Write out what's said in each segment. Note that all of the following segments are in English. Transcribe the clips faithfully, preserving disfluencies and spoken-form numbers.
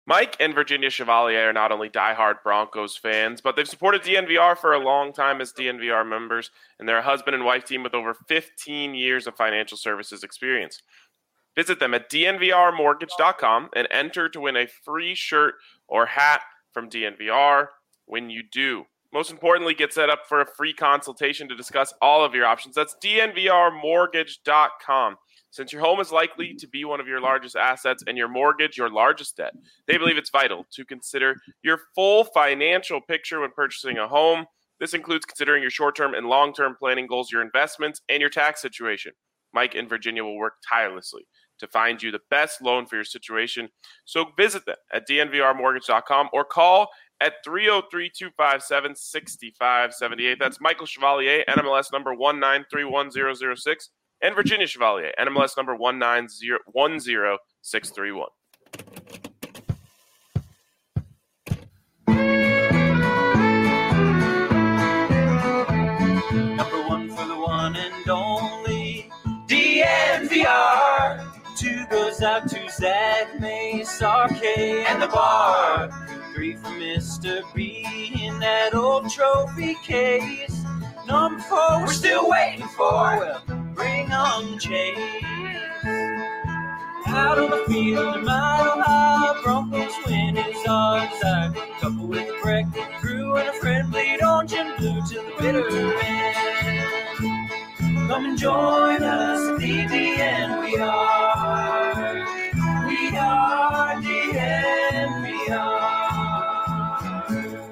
Mike and Virginia Chevalier are not only diehard Broncos fans, but they've supported D N V R for a long time as D N V R members, and they're a husband and wife team with over fifteen years of financial services experience. Visit them at d n v r mortgage dot com and enter to win a free shirt or hat from D N V R when you do. Most importantly, get set up for a free consultation to discuss all of your options. That's d n v r mortgage dot com. Since your home is likely to be one of your largest assets and your mortgage your largest debt, they believe it's vital to consider your full financial picture when purchasing a home. This includes considering your short-term and long-term planning goals, your investments, and your tax situation. Mike and Virginia will work tirelessly to find you the best loan for your situation. So visit them at d n v r mortgage dot com or call at three oh three, two five seven, six five seven eight. That's Michael Chevalier, N M L S number one nine three one zero zero six. And Virginia Chevalier, N M L S number one nine zero one zero six three one. Number one for the one and only D N V R. Two goes out to Zach Mace, R K, and the bar. Three for Mister B in that old trophy case. Number four, we're still waiting for. Well, bring on Chase. Out on the field, a mile high, Broncos win his odds. A couple with a breakfast crew and a friend bleed orange and blue till the bitter end. Come and join us at the D N V R. We are D N V R.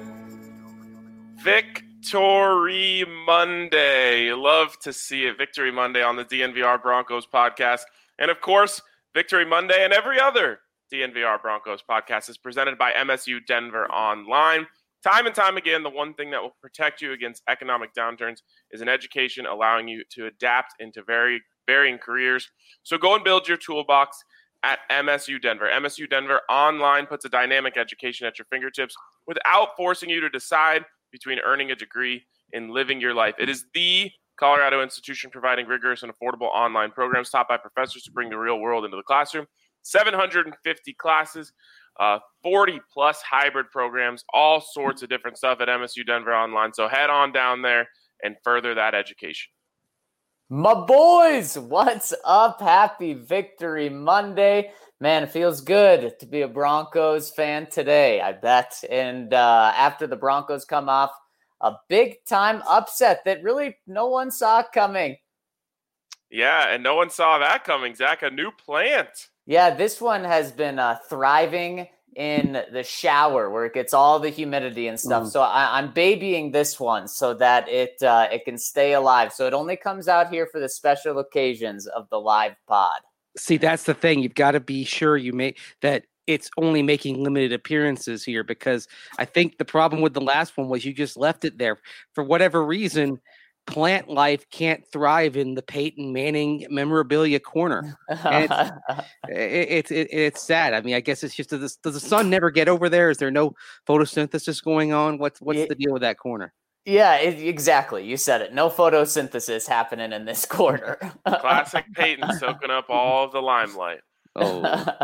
Victory Monday. Love to see it. Victory Monday on the D N V R Broncos podcast. And of course, Victory Monday and every other D N V R Broncos podcast is presented by M S U Denver Online. Time and time again, the one thing that will protect you against economic downturns is an education allowing you to adapt into very varying careers. So go and build your toolbox at M S U Denver. M S U Denver Online puts a dynamic education at your fingertips without forcing you to decide between earning a degree and living your life. It is the Colorado institution providing rigorous and affordable online programs taught by professors to bring the real world into the classroom. seven hundred fifty classes, uh, forty plus hybrid programs, all sorts of different stuff at M S U Denver Online. So head on down there and further that education. My boys, what's up? Happy Victory Monday. Man, it feels good to be a Broncos fan today, I bet. And uh, after the Broncos come off a big-time upset that really no one saw coming. Yeah, and no one saw that coming, Zach. A new plant. Yeah, this one has been uh, thriving in the shower where it gets all the humidity and stuff. Mm. So I, I'm babying this one so that it uh, it can stay alive. So it only comes out here for the special occasions of the live pod. See, that's the thing. You've got to be sure you make that it's only making limited appearances here, because I think the problem with the last one was you just left it there. For whatever reason, plant life can't thrive in the Peyton Manning memorabilia corner. And it's, it, it, it's sad. I mean, I guess it's just, does, does the sun never get over there? Is there no photosynthesis going on? What's, what's it, the deal with that corner? Yeah, it, exactly. You said it. No photosynthesis happening in this corner. Classic Peyton soaking up all of the limelight. Oh,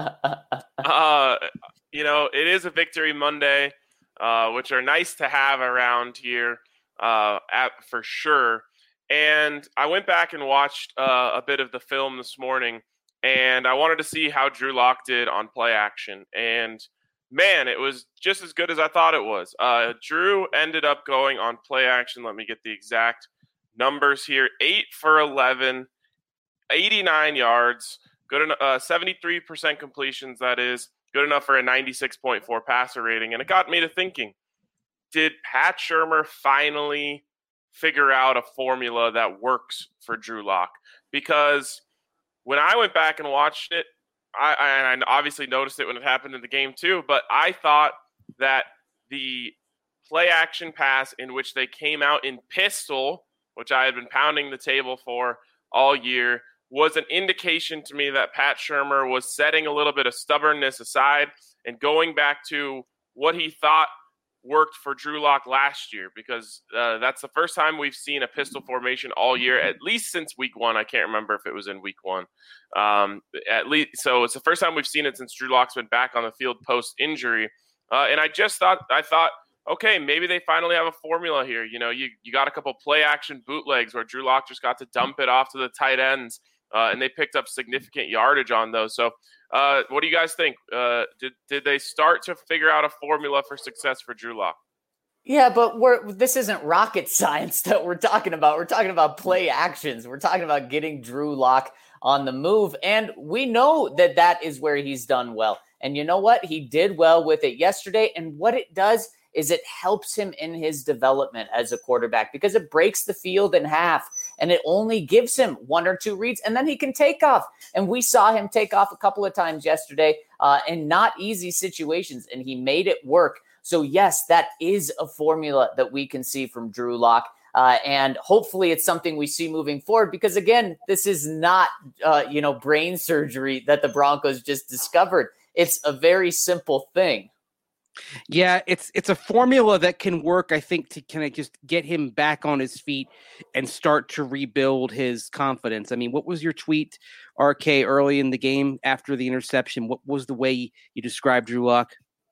uh, you know, it is a Victory Monday, uh, which are nice to have around here. Uh, at, for sure. And I went back and watched uh, a bit of the film this morning, and I wanted to see how Drew Lock did on play action. And man, it was just as good as I thought it was. Uh, Drew ended up going on play action. Let me get the exact numbers here. eight for eleven, eighty-nine yards, good enough, uh, seventy-three percent completions, that is, good enough for a ninety-six point four passer rating. And it got me to thinking, did Pat Shurmur finally figure out a formula that works for Drew Lock? Because when I went back and watched it, I, I obviously noticed it when it happened in the game too, but I thought that the play action pass in which they came out in pistol, which I had been pounding the table for all year, was an indication to me that Pat Shurmur was setting a little bit of stubbornness aside and going back to what he thought worked for Drew Lock last year, because uh, that's the first time we've seen a pistol formation all year, at least since week one. I can't remember if it was in week one. Um, at least, so it's the first time we've seen it since Drew Lock's been back on the field post injury. Uh, and I just thought, I thought, okay, maybe they finally have a formula here. You know, you, you got a couple play action bootlegs where Drew Lock just got to dump it off to the tight ends, uh, and they picked up significant yardage on those. So uh, what do you guys think? Uh, did, did they start to figure out a formula for success for Drew Lock? Yeah, but we're this isn't rocket science that we're talking about. We're talking about play actions. We're talking about getting Drew Lock on the move. And we know that that is where he's done well. And you know what? He did well with it yesterday. And what it does is it helps him in his development as a quarterback, because it breaks the field in half and it only gives him one or two reads, and then he can take off. And we saw him take off a couple of times yesterday uh, in not easy situations, and he made it work. So yes, that is a formula that we can see from Drew Lock. Uh, and hopefully it's something we see moving forward, because again, this is not, uh, you know, brain surgery that the Broncos just discovered. It's a very simple thing. Yeah, it's it's a formula that can work, I think, to kind of just get him back on his feet and start to rebuild his confidence. I mean, what was your tweet, R K, early in the game after the interception? What was the way you described Drew Lock?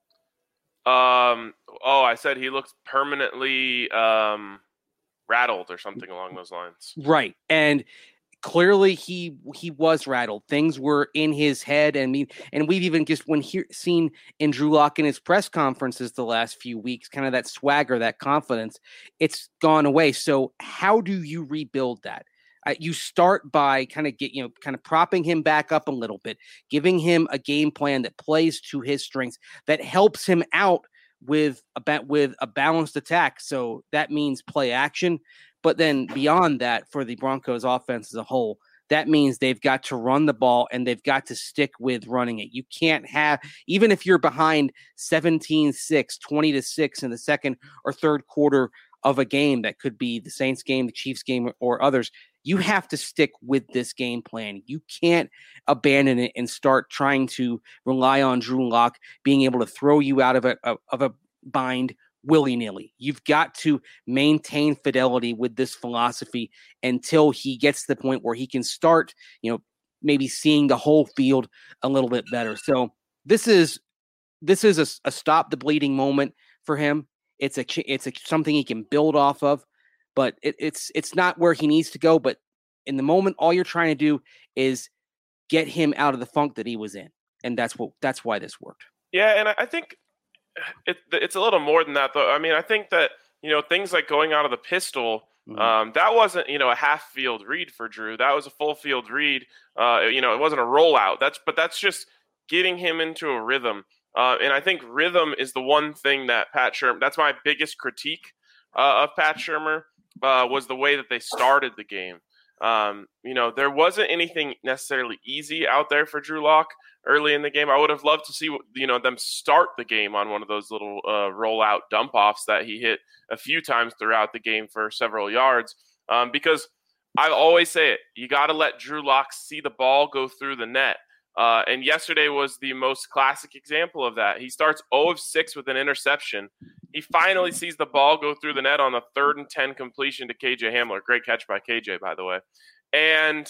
Um. Oh, I said he looks permanently um, rattled or something along those lines. Right, and clearly he he was rattled. Things were in his head, and I mean, and we've even just when he, seen in Drew Lock in his press conferences the last few weeks, kind of that swagger, that confidence, it's gone away. So how do you rebuild that? Uh, you start by kind of get you know kind of propping him back up a little bit, giving him a game plan that plays to his strengths, that helps him out with a with a balanced attack. So that means play action. But then beyond that, for the Broncos offense as a whole, that means they've got to run the ball and they've got to stick with running it. You can't have, even if you're behind seventeen six, twenty to six in the second or third quarter of a game, that could be the Saints game, the Chiefs game, or others, you have to stick with this game plan. You can't abandon it and start trying to rely on Drew Lock being able to throw you out of a, of a bind willy-nilly. You've got to maintain fidelity with this philosophy until he gets to the point where he can start, you know, maybe seeing the whole field a little bit better. So this is this is a, a stop the bleeding moment for him. It's a it's a something he can build off of, but it, it's it's not where he needs to go. But in the moment, all you're trying to do is get him out of the funk that he was in, and that's what that's why this worked. Yeah, and I think It, it's a little more than that, though. I mean, I think that, you know, things like going out of the pistol, mm-hmm. um, that wasn't, you know, a half field read for Drew. That was a full field read. Uh, you know, it wasn't a rollout. That's, but that's just getting him into a rhythm. Uh, and I think rhythm is the one thing that Pat Shurmur, that's my biggest critique uh, of Pat Shurmur, uh, was the way that they started the game. Um, you know, there wasn't anything necessarily easy out there for Drew Lock early in the game. I would have loved to see, you know, them start the game on one of those little uh, rollout dump offs that he hit a few times throughout the game for several yards. Um, because I always say it, you got to let Drew Lock see the ball go through the net. Uh, and yesterday was the most classic example of that. He starts zero of six with an interception. He finally sees the ball go through the net on the third and ten completion to K J Hamler. Great catch by K J, by the way. And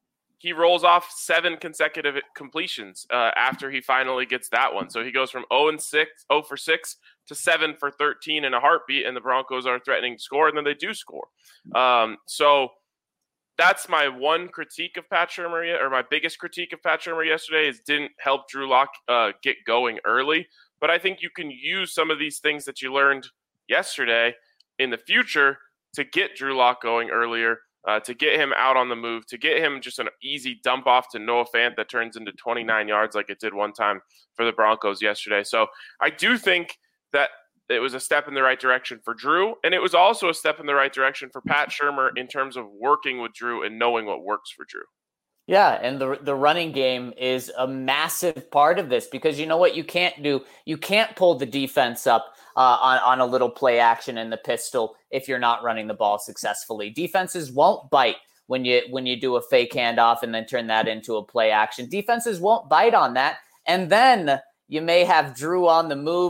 he rolls off seven consecutive completions uh, after he finally gets that one. So he goes from zero and six, zero for six to seven for thirteen in a heartbeat, and the Broncos are threatening to score, and then they do score. Um, so that's my one critique of Pat Shurmur, or my biggest critique of Pat Shurmur yesterday, is didn't help Drew Lock uh, get going early. But I think you can use some of these things that you learned yesterday in the future to get Drew Lock going earlier, uh, to get him out on the move, to get him just an easy dump off to Noah Fant that turns into twenty-nine yards like it did one time for the Broncos yesterday. So I do think that it was a step in the right direction for Drew, and it was also a step in the right direction for Pat Shurmur in terms of working with Drew and knowing what works for Drew. Yeah, and the the running game is a massive part of this, because you know what you can't do? You can't pull the defense up uh, on, on a little play action in the pistol if you're not running the ball successfully. Defenses won't bite when you when you do a fake handoff and then turn that into a play action. Defenses won't bite on that, and then you may have Drew on the move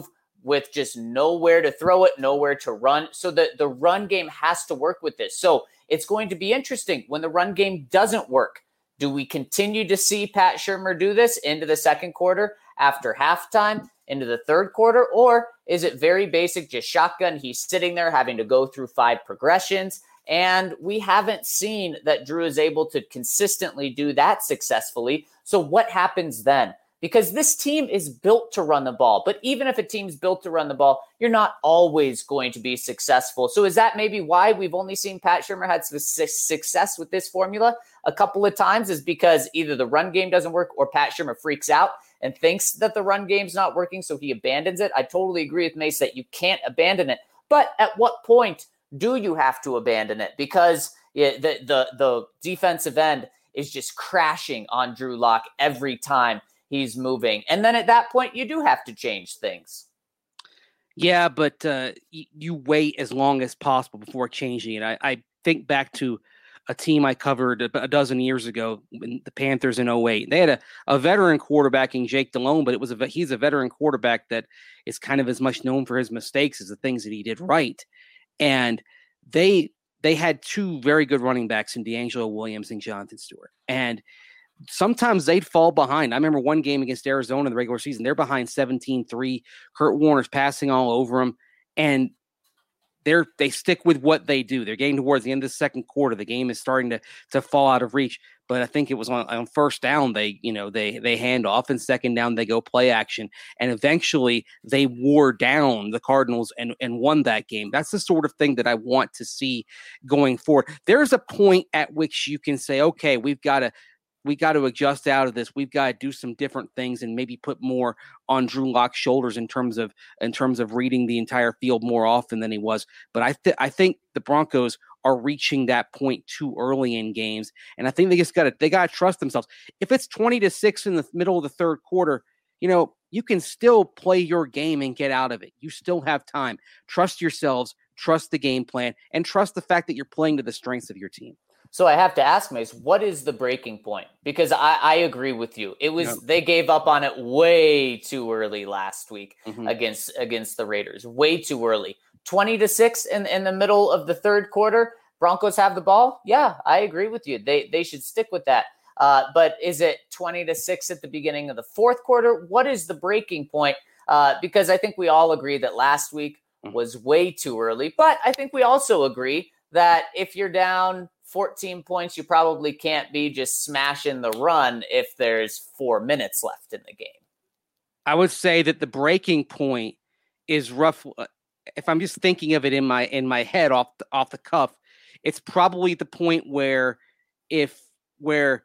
with just nowhere to throw it, nowhere to run. So the, the run game has to work with this. So it's going to be interesting when the run game doesn't work. Do we continue to see Pat Shurmur do this into the second quarter, after halftime, into the third quarter? Or is it very basic, just shotgun? He's sitting there having to go through five progressions. And we haven't seen that Drew is able to consistently do that successfully. So what happens then? Because this team is built to run the ball. But even if a team's built to run the ball, you're not always going to be successful. So is that maybe why we've only seen Pat Shurmur had success with this formula a couple of times, is because either the run game doesn't work or Pat Shurmur freaks out and thinks that the run game's not working, so he abandons it? I totally agree with Mace that you can't abandon it. But at what point do you have to abandon it? Because yeah, the, the, the defensive end is just crashing on Drew Lock every time he's moving. And then at that point, you do have to change things. Yeah, but uh, y- you wait as long as possible before changing it. I, I think back to a team I covered a, a dozen years ago, the Panthers in oh eight. They had a, a veteran quarterback in Jake Delhomme, but it was a, he's a veteran quarterback that is kind of as much known for his mistakes as the things that he did right. And they they had two very good running backs in D'Angelo Williams and Jonathan Stewart. And sometimes they'd fall behind. I remember one game against Arizona in the regular season. They're behind seventeen three. Kurt Warner's passing all over them. And they're, they stick with what they do. They're getting towards the end of the second quarter. The game is starting to, to fall out of reach. But I think it was on, on first down, they, you know, they, they hand off, and second down, they go play action. And eventually they wore down the Cardinals and, and won that game. That's the sort of thing that I want to see going forward. There's a point at which you can say, okay, we've got to, we got to adjust out of this. We've got to do some different things and maybe put more on Drew Lock's shoulders in terms of in terms of reading the entire field more often than he was. But I th- I think the Broncos are reaching that point too early in games, and I think they just got to they got to trust themselves. If it's twenty to six in the middle of the third quarter, you know, you can still play your game and get out of it. You still have time. Trust yourselves, trust the game plan, and trust the fact that you're playing to the strengths of your team. So I have to ask, Mace, what is the breaking point? Because I, I agree with you. It was, yep. They gave up on it way too early last week mm-hmm. against against the Raiders. Way too early. twenty to six in, in the middle of the third quarter. Broncos have the ball. Yeah, I agree with you. They they should stick with that. Uh, but is it twenty to six at the beginning of the fourth quarter? What is the breaking point? Uh, because I think we all agree that last week was way too early. But I think we also agree that if you're down fourteen points, you probably can't be just smashing the run if there's four minutes left in the game. I would say that the breaking point is rough. If I'm just thinking of it in my in my head off the, off the cuff, it's probably the point where if where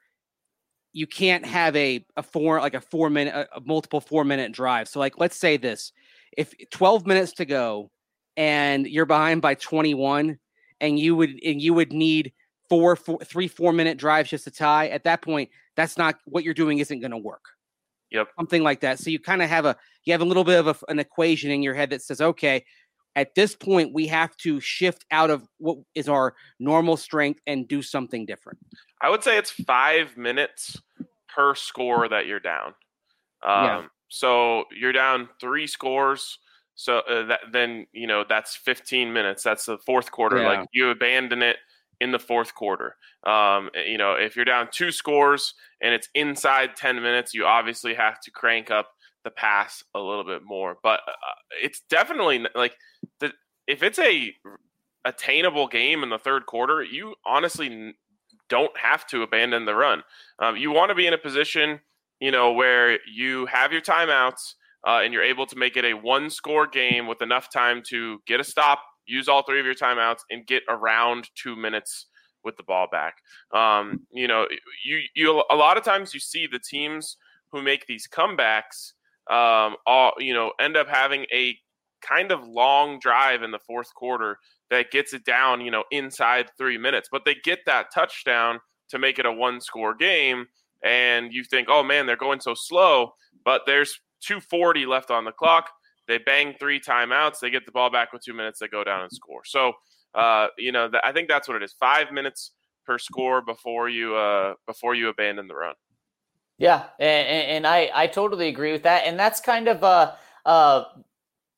you can't have a a four like a four minute a, a multiple four minute drive. So like let's say this: if twelve minutes to go and you're behind by twenty-one, and you would and you would need Four, four, three, four minute drives just to tie. At that point, that's not what you're doing. Isn't going to work. Yep, something like that. So you kind of have a you have a little bit of a, an equation in your head that says, okay, at this point, we have to shift out of what is our normal strength and do something different. I would say it's five minutes per score that you're down. Um, yeah. So you're down three scores. So uh, that, then you know that's fifteen minutes. That's the fourth quarter. Yeah. Like you abandon it in the fourth quarter. Um, you know, if you're down two scores and it's inside ten minutes, you obviously have to crank up the pass a little bit more. But uh, it's definitely like the, if it's a attainable game in the third quarter, you honestly don't have to abandon the run. Um, you want to be in a position, you know, where you have your timeouts uh, and you're able to make it a one score game with enough time to get a stop, use all three of your timeouts, and get around two minutes with the ball back. Um, you know, you you a lot of times you see the teams who make these comebacks, um, all you know, end up having a kind of long drive in the fourth quarter that gets it down, you know, inside three minutes. But they get that touchdown to make it a one-score game, and you think, oh man, they're going so slow. But there's two forty left on the clock. They bang three timeouts. They get the ball back with two minutes. They go down and score. So, uh, you know, th- I think that's what it is. Five minutes per score before you uh, before you abandon the run. Yeah, and, and I, I totally agree with that. And that's kind of uh, uh,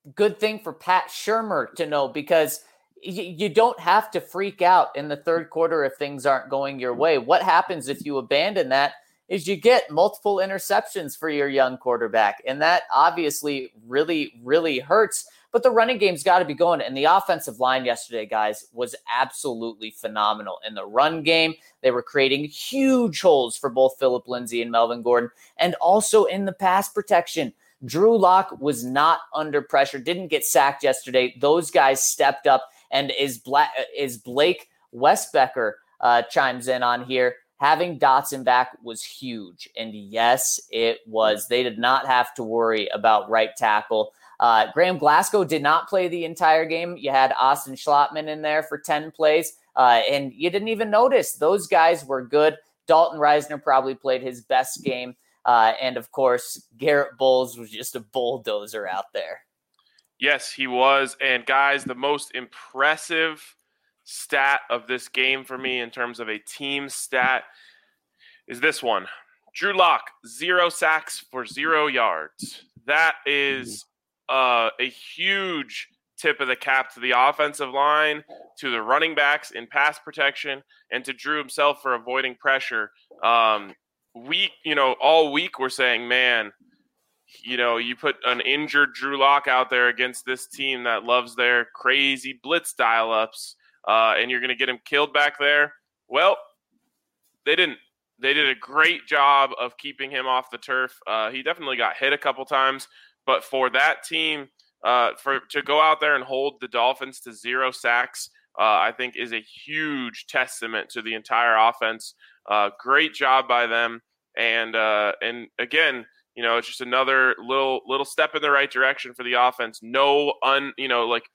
good thing for Pat Shurmur to know, because y- you don't have to freak out in the third quarter if things aren't going your way. What happens if you abandon that is you get multiple interceptions for your young quarterback, and that obviously really, really hurts. But the running game's got to be going. And the offensive line yesterday, guys, was absolutely phenomenal. In the run game, they were creating huge holes for both Phillip Lindsay and Melvin Gordon. And also in the pass protection, Drew Lock was not under pressure, didn't get sacked yesterday. Those guys stepped up. And is, Bla- is Blake Westbecker uh, chimes in on here. Having Dotson back was huge. And yes, it was. They did not have to worry about right tackle. Uh, Graham Glasgow did not play the entire game. You had Austin Schlottman in there for ten plays, uh, and you didn't even notice. Those guys were good. Dalton Reisner probably played his best game. Uh, and, of course, Garrett Bowles was just a bulldozer out there. Yes, he was. And, guys, the most impressive stat of this game for me in terms of a team stat is this one. Drew Lock, zero sacks for zero yards. That is uh, a huge tip of the cap to the offensive line, to the running backs in pass protection, and to Drew himself for avoiding pressure. Um, we, you know, all week we're saying, man, you know, you put an injured Drew Lock out there against this team that loves their crazy blitz dial-ups, uh, and you're going to get him killed back there. Well, they didn't. They did a great job of keeping him off the turf. Uh, he definitely got hit a couple times, but for that team, uh, for to go out there and hold the Dolphins to zero sacks, uh, I think is a huge testament to the entire offense. Uh, great job by them, and uh, and again, you know, it's just another little little step in the right direction for the offense. No un, you know, like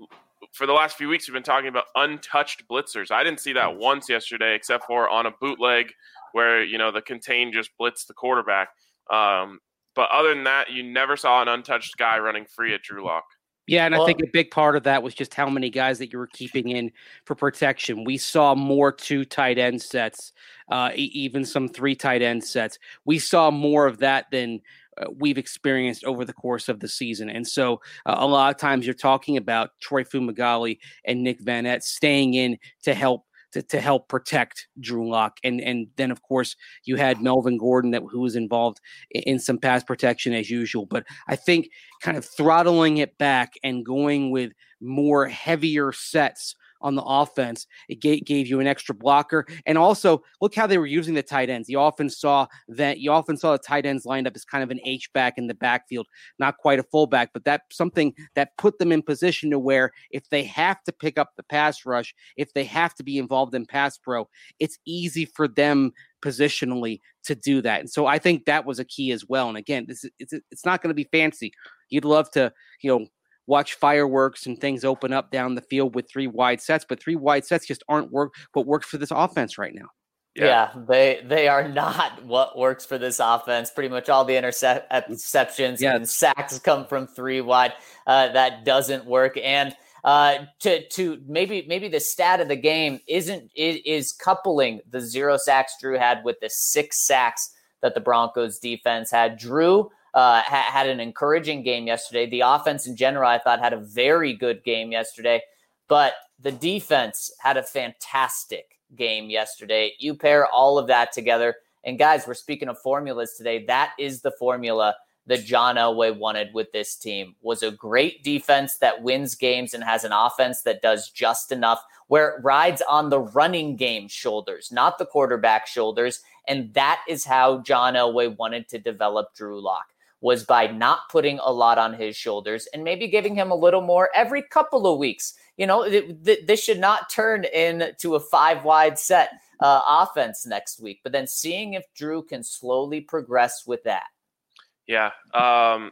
for the last few weeks we've been talking about untouched blitzers. I didn't see that once yesterday, except for on a bootleg where, you know, the contain just blitzed the quarterback. Um, but other than that, you never saw an untouched guy running free at Drew Lock. Yeah, and well, I think a big part of that was just how many guys that you were keeping in for protection. We saw more two tight end sets, uh, e- even some three tight end sets. We saw more of that than uh, we've experienced over the course of the season. And so uh, a lot of times you're talking about Troy Fumagalli and Nick Van Nett staying in to help To, to help protect Drew Lock. And and then, of course, you had Melvin Gordon that who was involved in, in some pass protection as usual. But I think kind of throttling it back and going with more heavier sets on the offense, it gave, gave you an extra blocker. And also, look how they were using the tight ends. You often saw that you often saw the tight ends lined up as kind of an H-back in the backfield, not quite a fullback, but that's something that put them in position to where if they have to pick up the pass rush, if they have to be involved in pass pro, it's easy for them positionally to do that. And so I think that was a key as well. And again, this is, it's, it's not going to be fancy. You'd love to, you know, watch fireworks and things open up down the field with three wide sets, but three wide sets just aren't work what works for this offense right now. Yeah. yeah, they they are not what works for this offense. Pretty much all the interceptions yeah. and sacks come from three wide. Uh, that doesn't work. And uh, to to maybe maybe the stat of the game isn't it is coupling the zero sacks Drew had with the six sacks that the Broncos defense had. Drew Uh, ha- had an encouraging game yesterday. The offense in general, I thought, had a very good game yesterday, but the defense had a fantastic game yesterday. You pair all of that together, and guys, we're speaking of formulas today. That is the formula that John Elway wanted with this team, was a great defense that wins games and has an offense that does just enough, where it rides on the running game shoulders, not the quarterback shoulders, and that is how John Elway wanted to develop Drew Lock, was by not putting a lot on his shoulders and maybe giving him a little more every couple of weeks. You know, th- th- this should not turn into a five wide set uh, offense next week, but then seeing if Drew can slowly progress with that. Yeah. Um,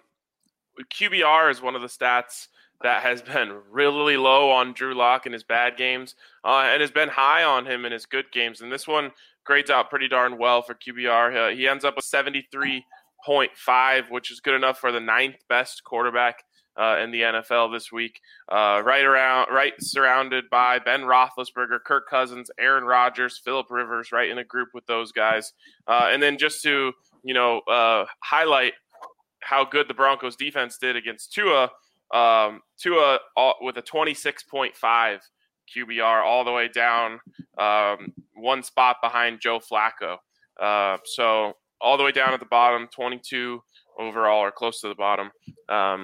Q B R is one of the stats that has been really low on Drew Lock in his bad games uh, and has been high on him in his good games. And this one grades out pretty darn well for Q B R. Uh, he ends up with seventy-three point five, which is good enough for the ninth best quarterback uh, in the N F L this week. Uh, right around, right surrounded by Ben Roethlisberger, Kirk Cousins, Aaron Rodgers, Phillip Rivers, right in a group with those guys. Uh, and then just to, you know, uh, highlight how good the Broncos defense did against Tua, um, to a all, with a twenty-six point five Q B R, all the way down um, one spot behind Joe Flacco. Uh, so all the way down at the bottom, twenty-two overall, or close to the bottom. Um,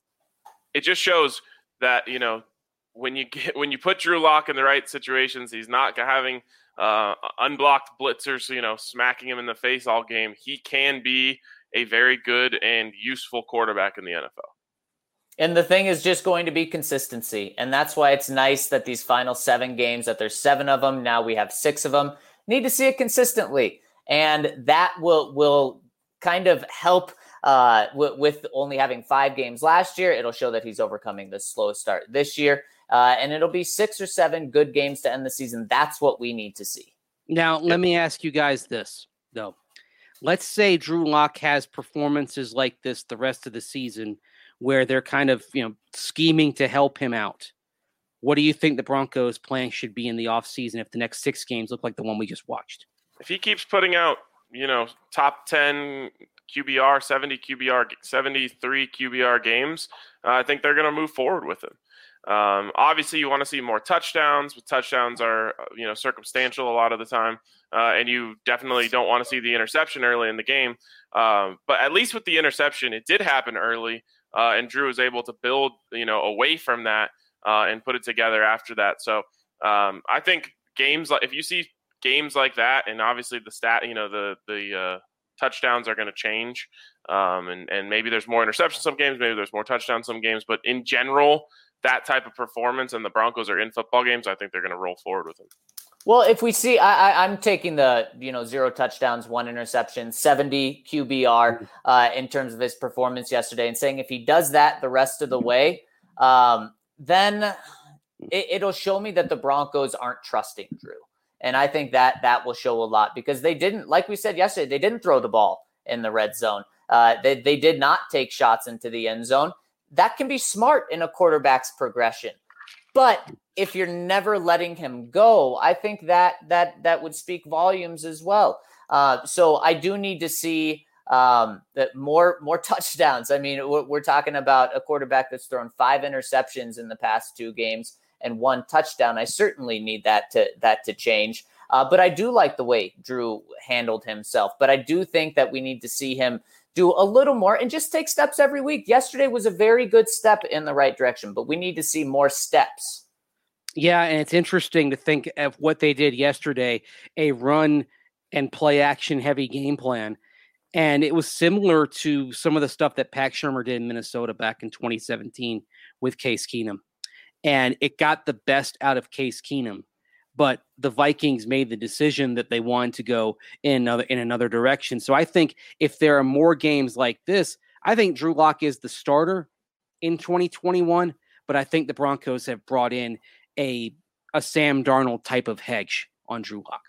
it just shows that, you know, when you get when you put Drew Lock in the right situations, he's not having uh, unblocked blitzers, you know, smacking him in the face all game. He can be a very good and useful quarterback in the N F L. And the thing is just going to be consistency. And that's why it's nice that these final seven games, that there's seven of them, now we have six of them, need to see it consistently. And that will will kind of help uh, w- with only having five games last year. It'll show that he's overcoming the slow start this year. Uh, and it'll be six or seven good games to end the season. That's what we need to see. Now, let me ask you guys this, though. Let's say Drew Lock has performances like this the rest of the season, where they're kind of, you know, scheming to help him out. What do you think the Broncos' plan should be in the offseason if the next six games look like the one we just watched? If he keeps putting out, you know, top ten Q B R, seventy Q B R, seventy-three Q B R games, uh, I think they're going to move forward with him. Um, obviously, you want to see more touchdowns, but touchdowns are, you know, circumstantial a lot of the time. Uh, and you definitely don't want to see the interception early in the game. Um, but at least with the interception, it did happen early. Uh, and Drew was able to build, you know, away from that uh, and put it together after that. So um, I think games like, if you see games like that, and obviously the stat, you know, the the uh, touchdowns are going to change, um, and and maybe there's more interceptions some games, maybe there's more touchdowns some games, but in general, that type of performance, and the Broncos are in football games, I think they're going to roll forward with him. Well, if we see, I, I, I'm taking the, you know, zero touchdowns, one interception, seventy Q B R uh, in terms of his performance yesterday, and saying if he does that the rest of the way, um, then it, it'll show me that the Broncos aren't trusting Drew. And I think that that will show a lot, because they didn't, like we said yesterday, they didn't throw the ball in the red zone. Uh, they, they did not take shots into the end zone. That can be smart in a quarterback's progression. But if you're never letting him go, I think that that that would speak volumes as well. Uh, so I do need to see um, that more more touchdowns. I mean, we're, we're talking about a quarterback that's thrown five interceptions in the past two games and one touchdown. I certainly need that to that to change. Uh, but I do like the way Drew handled himself. But I do think that we need to see him do a little more and just take steps every week. Yesterday was a very good step in the right direction, but we need to see more steps. Yeah, and it's interesting to think of what they did yesterday, a run and play action heavy game plan. And it was similar to some of the stuff that Pat Shurmur did in Minnesota back in twenty seventeen with Case Keenum. And it got the best out of Case Keenum. But the Vikings made the decision that they wanted to go in another, in another direction. So I think if there are more games like this, I think Drew Lock is the starter in twenty twenty-one. But I think the Broncos have brought in a a Sam Darnold type of hedge on Drew Lock.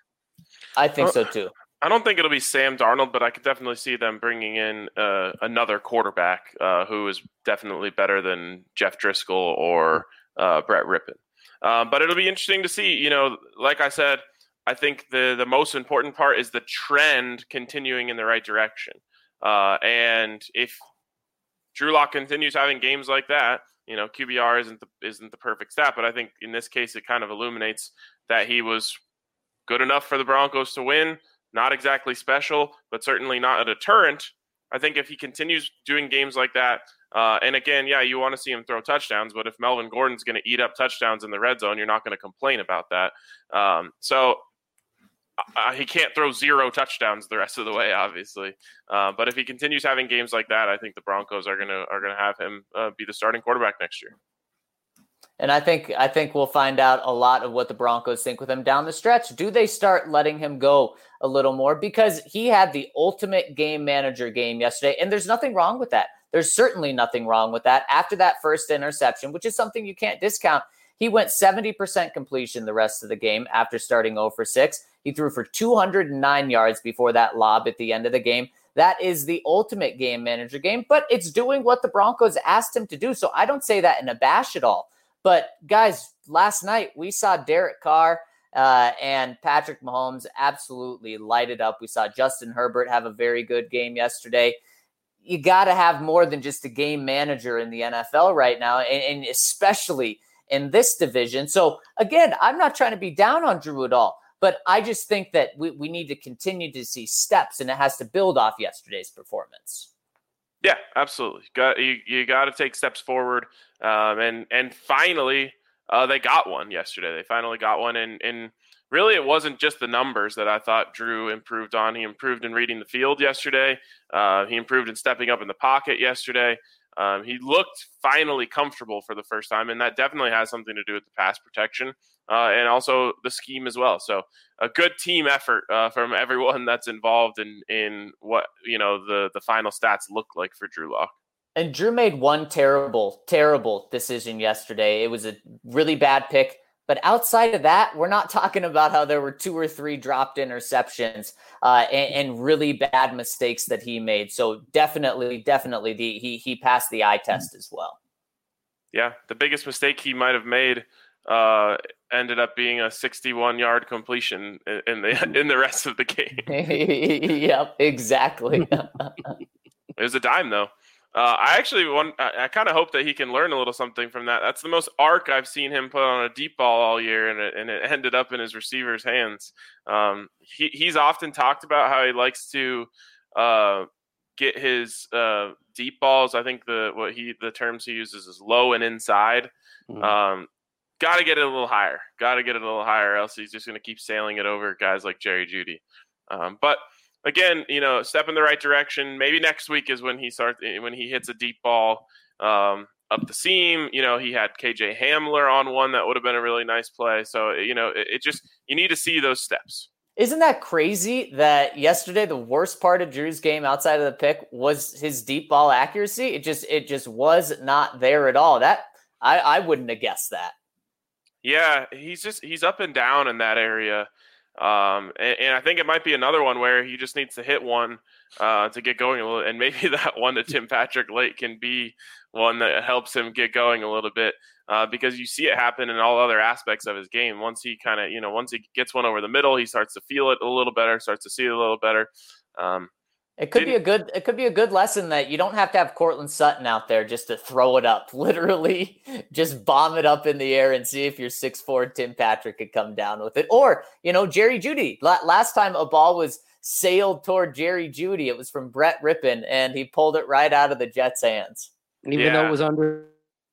I think so too. I don't think it'll be Sam Darnold, but I could definitely see them bringing in uh, another quarterback uh, who is definitely better than Jeff Driscoll or uh, Brett Rippon. Uh, but it'll be interesting to see. You know, like I said, I think the the most important part is the trend continuing in the right direction. Uh, and if Drew Lock continues having games like that, you know, Q B R isn't the, isn't the perfect stat, but I think in this case it kind of illuminates that he was good enough for the Broncos to win. Not exactly special, but certainly not a deterrent. I think if he continues doing games like that, uh, and again, yeah, you want to see him throw touchdowns, but if Melvin Gordon's going to eat up touchdowns in the red zone, you're not going to complain about that. Um, so uh, he can't throw zero touchdowns the rest of the way, obviously. Uh, but if he continues having games like that, I think the Broncos are going to are going to have him uh, be the starting quarterback next year. And I think I think we'll find out a lot of what the Broncos think with him down the stretch. Do they start letting him go a little more? Because he had the ultimate game manager game yesterday, and there's nothing wrong with that. There's certainly nothing wrong with that. After that first interception, which is something you can't discount, he went seventy percent completion the rest of the game after starting zero for six. He threw for two hundred nine yards before that lob at the end of the game. That is the ultimate game manager game, but it's doing what the Broncos asked him to do. So I don't say that in a bash at all. But, guys, last night we saw Derek Carr uh, and Patrick Mahomes absolutely light it up. We saw Justin Herbert have a very good game yesterday. you got to have more than just a game manager in the N F L right now, and, and especially in this division. So again, I'm not trying to be down on Drew at all, but I just think that we, we need to continue to see steps, and it has to build off yesterday's performance. Yeah, absolutely. Got you. You got to take steps forward, um, and and finally, uh, they got one yesterday. They finally got one, and and really, it wasn't just the numbers that I thought Drew improved on. He improved in reading the field yesterday. Uh, he improved in stepping up in the pocket yesterday. Um, he looked finally comfortable for the first time, and that definitely has something to do with the pass protection uh, and also the scheme as well. So a good team effort uh, from everyone that's involved in in what you know the the final stats look like for Drew Lock. And Drew made one terrible, terrible decision yesterday. It was a really bad pick. But outside of that, we're not talking about how there were two or three dropped interceptions uh, and, and really bad mistakes that he made. So definitely, definitely, the, he he passed the eye test as well. Yeah, the biggest mistake he might have made uh, ended up being a sixty-one yard completion in, in the in the rest of the game. Yep, exactly. It was a dime, though. Uh, I actually want. I, I kind of hope that he can learn a little something from that. That's the most arc I've seen him put on a deep ball all year, and it, and it ended up in his receiver's hands. Um, he he's often talked about how he likes to uh, get his uh, deep balls. I think the what he the terms he uses is low and inside. Mm-hmm. Um, Got to get it a little higher. Got to get it a little higher, else he's just going to keep sailing it over guys like Jerry Jeudy. Um, but. Again, you know, step in the right direction. Maybe next week is when he starts, when he hits a deep ball um, up the seam. You know, he had K J Hamler on one that would have been a really nice play. So, you know, it, it just, you need to see those steps. Isn't that crazy that yesterday the worst part of Drew's game outside of the pick was his deep ball accuracy? It just, it just was not there at all. That I, I wouldn't have guessed that. Yeah, he's just, he's up and down in that area. Um, and, and I think it might be another one where he just needs to hit one uh, to get going a little, and maybe that one to Tim Patrick late can be one that helps him get going a little bit uh, because you see it happen in all other aspects of his game. Once he kind of, you know, once he gets one over the middle, he starts to feel it a little better, starts to see it a little better. Um, It could be a good, it could be a good lesson that you don't have to have Cortland Sutton out there just to throw it up, literally just bomb it up in the air and see if your six foot four Tim Patrick could come down with it. Or, you know, Jerry Jeudy. Last time a ball was sailed toward Jerry Jeudy, it was from Brett Rippon, and he pulled it right out of the Jets' hands. Even yeah. though it was under.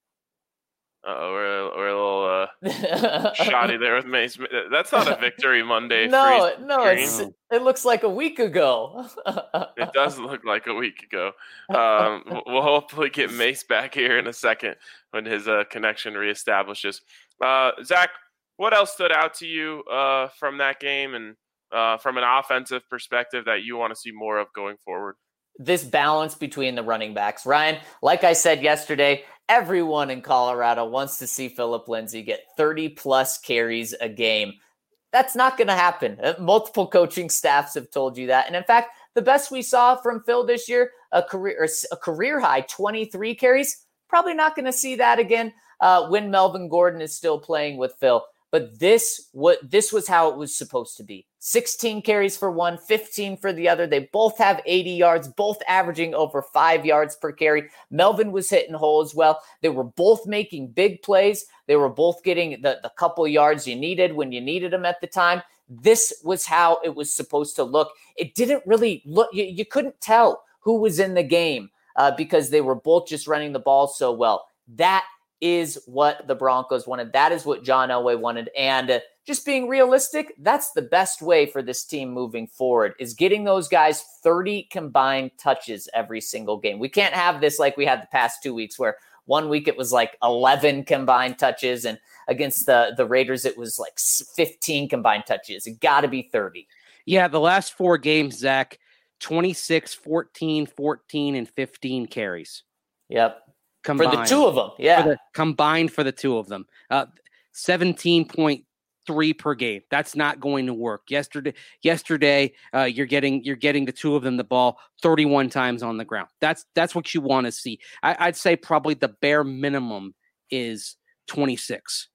Uh-oh, we're, we're a little uh, shoddy there with Mace. That's not a Victory Monday. No, no, it's, it looks like a week ago. It does look like a week ago. Um, we'll hopefully get Mace back here in a second when his uh, connection reestablishes. Uh, Zach, what else stood out to you uh, from that game and uh, from an offensive perspective that you want to see more of going forward? This balance between the running backs. Ryan, like I said yesterday, everyone in Colorado wants to see Phillip Lindsay get thirty plus carries a game. That's not going to happen. Multiple coaching staffs have told you that. And in fact, the best we saw from Phil this year, a career a career high twenty-three carries, probably not going to see that again uh, when Melvin Gordon is still playing with Phil. But this what this was how it was supposed to be. sixteen carries for one, fifteen for the other. They both have eighty yards, both averaging over five yards per carry. Melvin was hitting holes well. They were both making big plays. They were both getting the, the couple yards you needed when you needed them at the time. This was how it was supposed to look. It didn't really look, you, you couldn't tell who was in the game uh, because they were both just running the ball so well. That is what the Broncos wanted. That is what John Elway wanted. And uh, just being realistic, that's the best way for this team moving forward, is getting those guys thirty combined touches every single game. We can't have this like we had the past two weeks where one week it was like eleven combined touches, and against the, the Raiders it was like fifteen combined touches. It got to be thirty. Yeah, the last four games, Zach, twenty-six, fourteen, fourteen, and fifteen carries. Yep. Combined. For the two of them, yeah. For the, combined for the two of them. Uh, seventeen point three per game. That's not going to work. Yesterday, yesterday, uh, you're getting you're getting the two of them the ball thirty-one times on the ground. That's that's what you want to see. I, I'd say probably the bare minimum is twenty-six.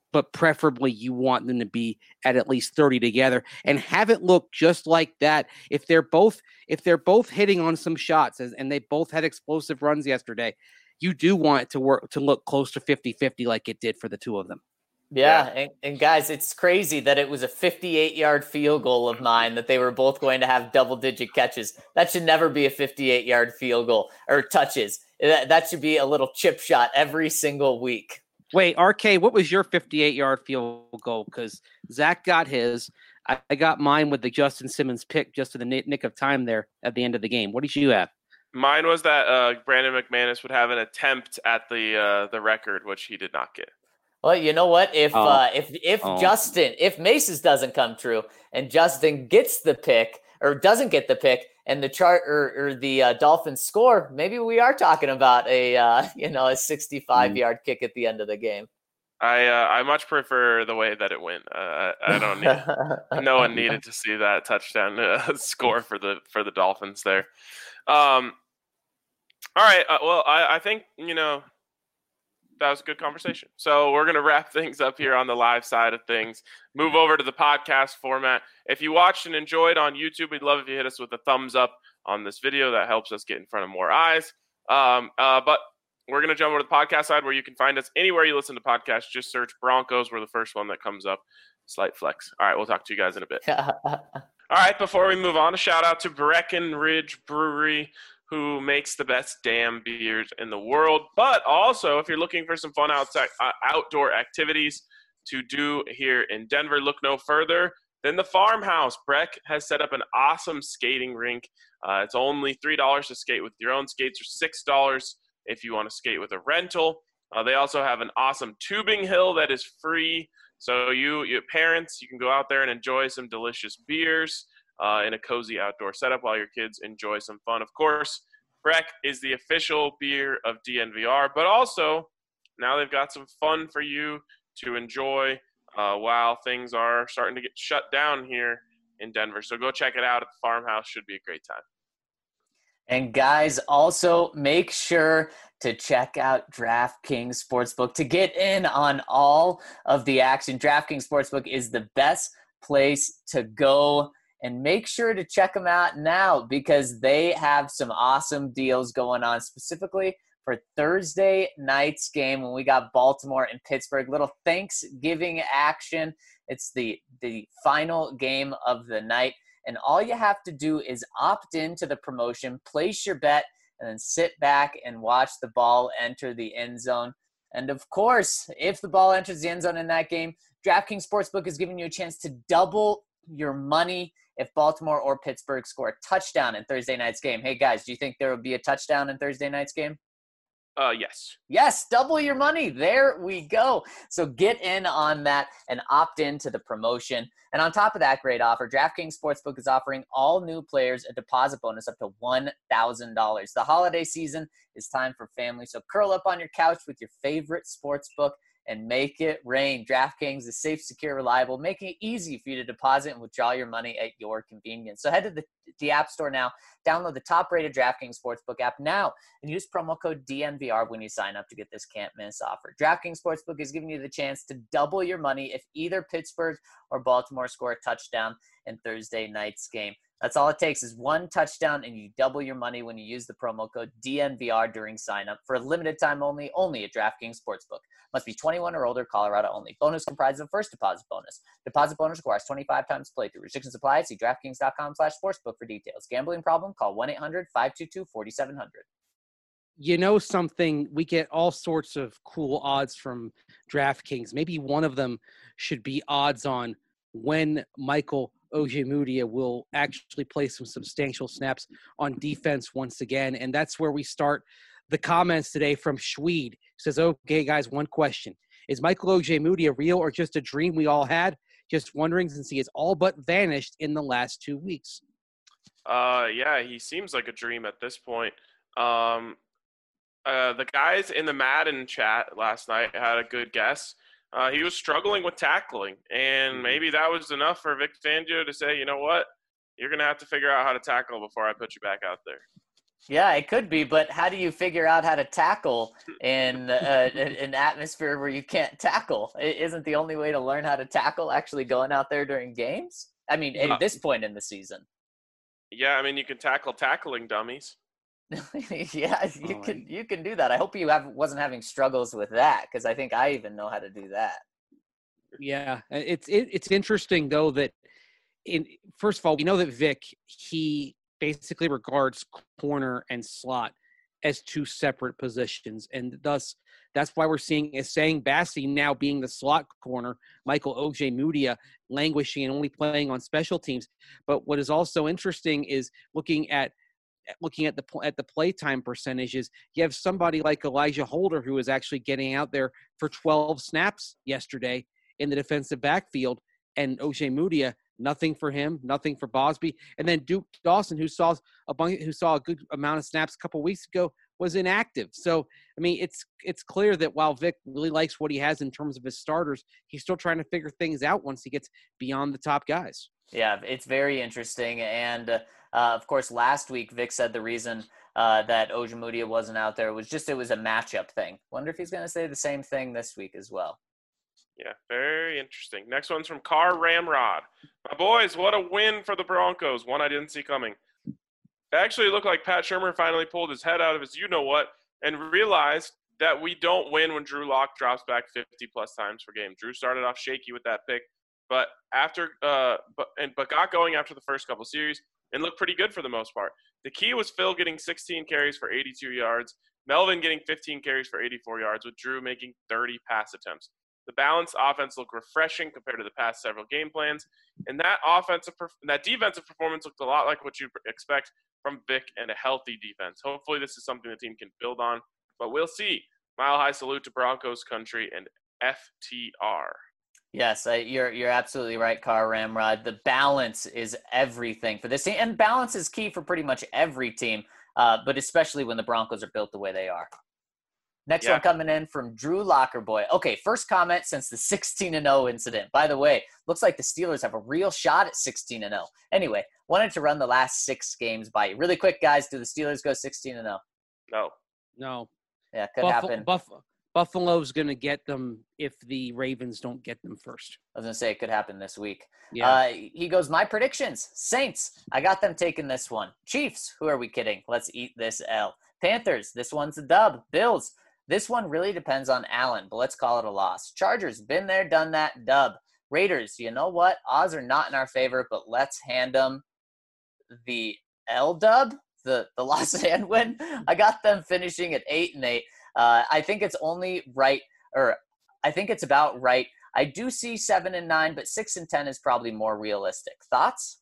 but preferably you want them to be at at least thirty together and have it look just like that. If they're both, if they're both hitting on some shots and they both had explosive runs yesterday, you do want it to work, to look close to fifty-fifty like it did for the two of them. Yeah, yeah. And, and guys, it's crazy that it was a fifty-eight yard field goal of mine that they were both going to have double digit catches. That should never be a fifty-eight yard field goal or touches. That, that should be a little chip shot every single week. Wait, R K, what was your fifty-eight yard field goal? Because Zach got his. I, I got mine with the Justin Simmons pick just in the nick of time there at the end of the game. What did you have? Mine was that uh, Brandon McManus would have an attempt at the uh, the record, which he did not get. Well, you know what? If oh. uh, if if oh. Justin, if Mace's doesn't come true and Justin gets the pick or doesn't get the pick and the chart or, or the uh, Dolphins score, maybe we are talking about a uh, you know a sixty-five yard mm. kick at the end of the game. I uh, I much prefer the way that it went. Uh, I don't need no one needed to see that touchdown uh, score for the for the Dolphins there. Um, all right. Uh, well, I, I think you know. That was a good conversation. So we're going to wrap things up here on the live side of things. Move over to the podcast format. If you watched and enjoyed on YouTube, we'd love if you hit us with a thumbs up on this video. That helps us get in front of more eyes. Um, uh, but we're going to jump over to the podcast side where you can find us anywhere you listen to podcasts. Just search Broncos. We're the first one that comes up. Slight flex. All right, we'll talk to you guys in a bit. All right, before we move on, a shout out to Breckenridge Brewery, who makes the best damn beers in the world. But also, if you're looking for some fun outside, uh, outdoor activities to do here in Denver, look no further than the Farmhouse. Breck has set up an awesome skating rink. Uh, it's only three dollars to skate with your own skates, or six dollars if you want to skate with a rental. Uh, they also have an awesome tubing hill that is free. So you, you parents, you can go out there and enjoy some delicious beers Uh, in a cozy outdoor setup while your kids enjoy some fun. Of course, Breck is the official beer of D N V R, but also now they've got some fun for you to enjoy uh, while things are starting to get shut down here in Denver. So go check it out at the Farmhouse. Should be a great time. And guys, also make sure to check out DraftKings Sportsbook to get in on all of the action. DraftKings Sportsbook is the best place to go. And make sure to check them out now because they have some awesome deals going on, specifically for Thursday night's game when we got Baltimore and Pittsburgh. Little Thanksgiving action. It's the, the final game of the night. And all you have to do is opt into the promotion, place your bet, and then sit back and watch the ball enter the end zone. And, of course, if the ball enters the end zone in that game, DraftKings Sportsbook is giving you a chance to double your money if Baltimore or Pittsburgh score a touchdown in Thursday night's game. Hey, guys, do you think there will be a touchdown in Thursday night's game? Uh, yes. Yes, double your money. There we go. So get in on that and opt into the promotion. And on top of that great offer, DraftKings Sportsbook is offering all new players a deposit bonus up to one thousand dollars. The holiday season is time for family, so curl up on your couch with your favorite sportsbook and make it rain. DraftKings is safe, secure, reliable, making it easy for you to deposit and withdraw your money at your convenience. So head to the, the App Store now, download the top-rated DraftKings Sportsbook app now, and use promo code D N V R when you sign up to get this can't-miss offer. DraftKings Sportsbook is giving you the chance to double your money if either Pittsburgh or Baltimore score a touchdown in Thursday night's game. That's all it takes is one touchdown, and you double your money when you use the promo code D N V R during sign-up. For a limited time only, only at DraftKings Sportsbook. Must be twenty-one or older, Colorado only. Bonus comprised of first deposit bonus. Deposit bonus requires twenty-five times playthrough. Restrictions apply. See DraftKings.com slash sportsbook for details. Gambling problem? Call one eight hundred five two two four seven zero zero. You know something? We get all sorts of cool odds from DraftKings. Maybe one of them should be odds on when Michael Ojemudia will actually play some substantial snaps on defense once again. And that's where we start the comments today from Schweed. Says, okay, guys, one question. Is Michael Ojemudia real or just a dream we all had? Just wondering since he has all but vanished in the last two weeks. Uh, yeah, he seems like a dream at this point. Um, uh, the guys in the Madden chat last night had a good guess. Uh, he was struggling with tackling, and maybe that was enough for Vic Fangio to say, you know what, you're going to have to figure out how to tackle before I put you back out there. Yeah, it could be, but how do you figure out how to tackle in uh, an atmosphere where you can't tackle? It isn't the only way to learn how to tackle actually going out there during games? I mean, Uh, at this point in the season. yeah, I mean, you can tackle tackling dummies. Yeah, you Oh, can you can do that. I hope you have wasn't having struggles with that because I think I even know how to do that. Yeah, uh, it's it, it's interesting though that in first of all, we know that Vic he basically regards corner and slot as two separate positions, and thus that's why we're seeing is saying Bassi now being the slot corner, Michael Ojemudia languishing and only playing on special teams. But what is also interesting is looking at looking at the at the playtime percentages. You have somebody like Elijah Holder who is actually getting out there for twelve snaps yesterday in the defensive backfield, and Ojemudia, nothing for him, nothing for Bosby, and then Duke Dawson, who saw a bunch, who saw a good amount of snaps a couple weeks ago, was inactive. So I mean, it's it's clear that while Vic really likes what he has in terms of his starters, he's still trying to figure things out once he gets beyond the top guys. Yeah, it's very interesting. And, uh, uh, of course, last week, Vic said the reason uh, that Ojemudia wasn't out there was just it was a matchup thing. Wonder if he's going to say the same thing this week as well. Yeah, very interesting. Next one's from Car Ramrod. My boys, what a win for the Broncos. One I didn't see coming. It actually looked like Pat Shurmur finally pulled his head out of his you-know-what and realized that we don't win when Drew Lock drops back fifty-plus times per game. Drew started off shaky with that pick. But after, uh, but and but got going after the first couple series and looked pretty good for the most part. The key was Phil getting sixteen carries for eighty-two yards, Melvin getting fifteen carries for eighty-four yards, with Drew making thirty pass attempts. The balanced offense looked refreshing compared to the past several game plans, and that offensive, that defensive performance looked a lot like what you expect from Vic and a healthy defense. Hopefully, this is something the team can build on, but we'll see. Mile high salute to Broncos country and F T R. Yes, I, you're you're absolutely right, Car Ramrod. The balance is everything for this team, and balance is key for pretty much every team, uh, but especially when the Broncos are built the way they are. Next Yeah. one coming in from Drew Lockerboy. Okay, first comment since the sixteen and oh incident. By the way, looks like the Steelers have a real shot at sixteen and oh. Anyway, wanted to run the last six games by you. Really quick, guys, do the Steelers go sixteen and oh? No. No, Yeah, could Buffalo, happen. Buff- Buffalo's going to get them if the Ravens don't get them first. I was going to say it could happen this week. Yeah. Uh, he goes, my predictions. Saints, I got them taking this one. Chiefs, who are we kidding? Let's eat this L. Panthers, this one's a dub. Bills, this one really depends on Allen, but let's call it a loss. Chargers, been there, done that, dub. Raiders, you know what? Odds are not in our favor, but let's hand them the L dub, the, the loss and win. I got them finishing at eight and eight. Uh, I think it's only right, or I think it's about right. I do see seven and nine, but six and ten is probably more realistic. Thoughts?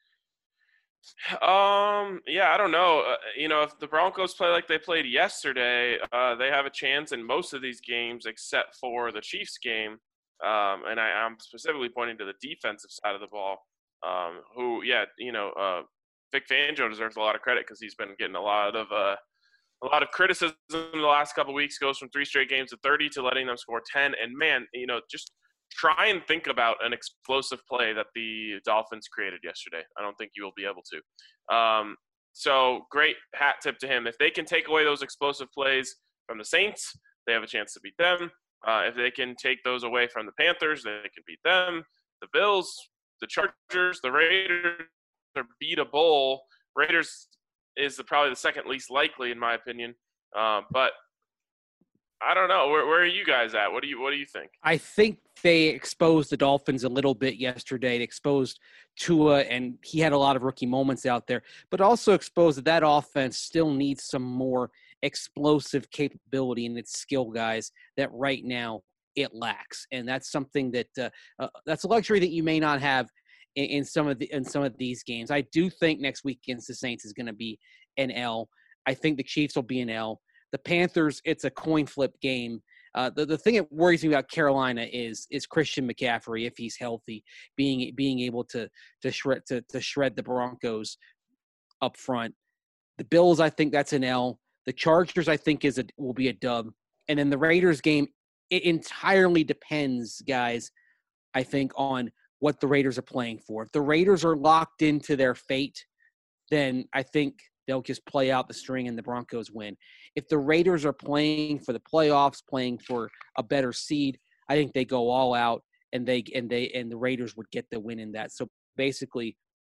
Um. Yeah, I don't know. Uh, you know, if the Broncos play like they played yesterday, uh, they have a chance in most of these games, except for the Chiefs game. Um, and I, I'm specifically pointing to the defensive side of the ball. Um, who, yeah, you know, uh, Vic Fangio deserves a lot of credit because he's been getting a lot of uh, a lot of criticism in the last couple of weeks. Goes from three straight games of thirty to letting them score ten. And man, you know, just try and think about an explosive play that the Dolphins created yesterday. I don't think you will be able to. Um, so great hat tip to him. If they can take away those explosive plays from the Saints, they have a chance to beat them. Uh, if they can take those away from the Panthers, they can beat them. The Bills, the Chargers, the Raiders are beatable. Raiders is the, probably the second least likely, in my opinion. Uh, but I don't know. Where, where are you guys at? What do you What do you think? I think they exposed the Dolphins a little bit yesterday. They exposed Tua, and he had a lot of rookie moments out there, but also exposed that that offense still needs some more explosive capability in its skill guys that right now it lacks. And that's something that uh, uh, that's a luxury that you may not have in, in some of the in some of these games. I do think next week against the Saints is going to be an L. I think the Chiefs will be an L. The Panthers, it's a coin flip game. Uh, the, the thing that worries me about Carolina is is Christian McCaffrey, if he's healthy, being being able to to shred to, to shred the Broncos up front. The Bills, I think that's an L. The Chargers, I think, is a will be a dub. And then the Raiders game, it entirely depends, guys, I think, on what the Raiders are playing for. If the Raiders are locked into their fate, then I think they'll just play out the string and the Broncos win. If the Raiders are playing for the playoffs, playing for a better seed, I think they go all out and they and they and the Raiders would get the win in that. So basically,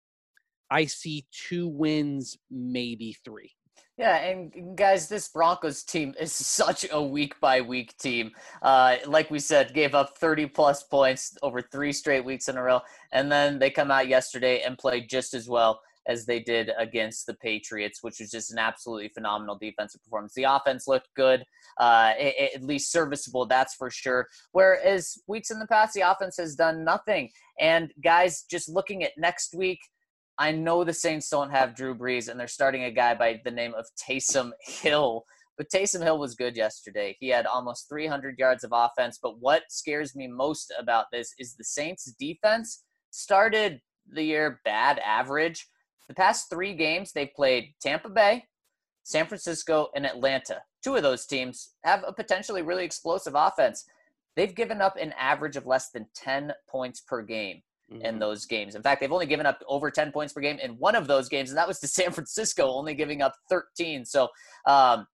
I see two wins, maybe three. Yeah, and guys, this Broncos team is such a week-by-week team. Uh, like we said, gave up thirty-plus points over three straight weeks in a row, and then they come out yesterday and played just as well as they did against the Patriots, which was just an absolutely phenomenal defensive performance. The offense looked good, uh, at least serviceable, that's for sure. Whereas weeks in the past, the offense has done nothing. And guys, just looking at next week, I know the Saints don't have Drew Brees, and they're starting a guy by the name of Taysom Hill. But Taysom Hill was good yesterday. He had almost three hundred yards of offense. But what scares me most about this is the Saints' defense started the year bad, average. The past three games, they've played Tampa Bay, San Francisco, and Atlanta. Two of those teams have a potentially really explosive offense. They've given up an average of less than ten points per game in those games. In fact, they've only given up over ten points per game in one of those games, and that was to San Francisco, only giving up thirteen. So um,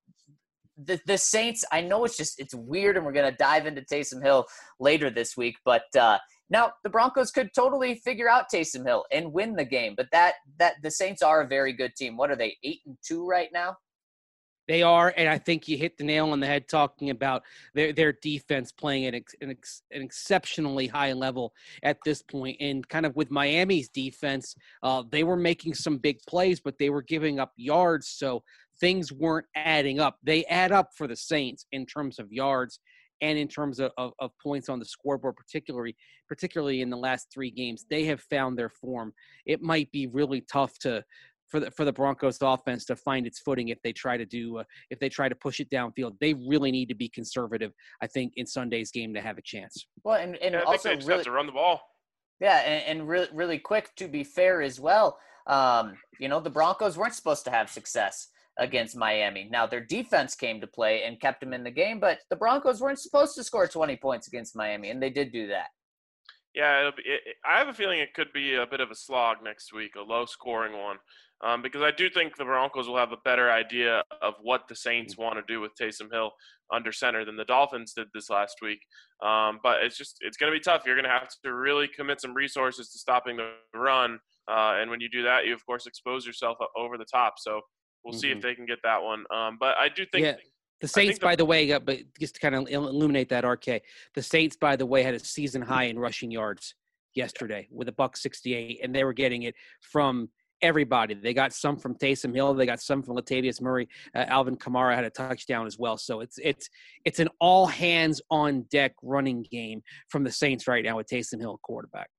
the the Saints, I know it's just it's weird, and we're going to dive into Taysom Hill later this week, but uh, now the Broncos could totally figure out Taysom Hill and win the game. But that that the Saints are a very good team. What are they, eight and two right now? They are, and I think you hit the nail on the head talking about their their defense playing at an, ex, an exceptionally high level at this point. And kind of with Miami's defense, uh, they were making some big plays, but they were giving up yards, so things weren't adding up. They add up for the Saints in terms of yards and in terms of, of, of points on the scoreboard, particularly particularly in the last three games. They have found their form. It might be really tough to – for the for the Broncos offense to find its footing if they try to do uh, if they try to push it downfield. They really need to be conservative, I think, in Sunday's game to have a chance. Well, and, and yeah, I also think they just really have to run the ball. Yeah, and, and really really quick to be fair as well. Um, you know, the Broncos weren't supposed to have success against Miami. Now their defense came to play and kept them in the game, but the Broncos weren't supposed to score twenty points against Miami, and they did do that. Yeah, it'll be, it, I have a feeling it could be a bit of a slog next week, a low-scoring one, um, because I do think the Broncos will have a better idea of what the Saints want to do with Taysom Hill under center than the Dolphins did this last week. Um, but it's just it's going to be tough. You're going to have to really commit some resources to stopping the run, uh, and when you do that, you of course expose yourself over the top. So we'll mm-hmm. see if they can get that one. Um, but I do think. Yeah. The Saints, the, by the way, but just to kind of illuminate that, R K, the Saints, by the way, had a season high in rushing yards yesterday with a buck sixty-eight, and they were getting it from everybody. They got some from Taysom Hill, they got some from Latavius Murray. Uh, Alvin Kamara had a touchdown as well. So it's it's it's an all hands on deck running game from the Saints right now with Taysom Hill quarterback.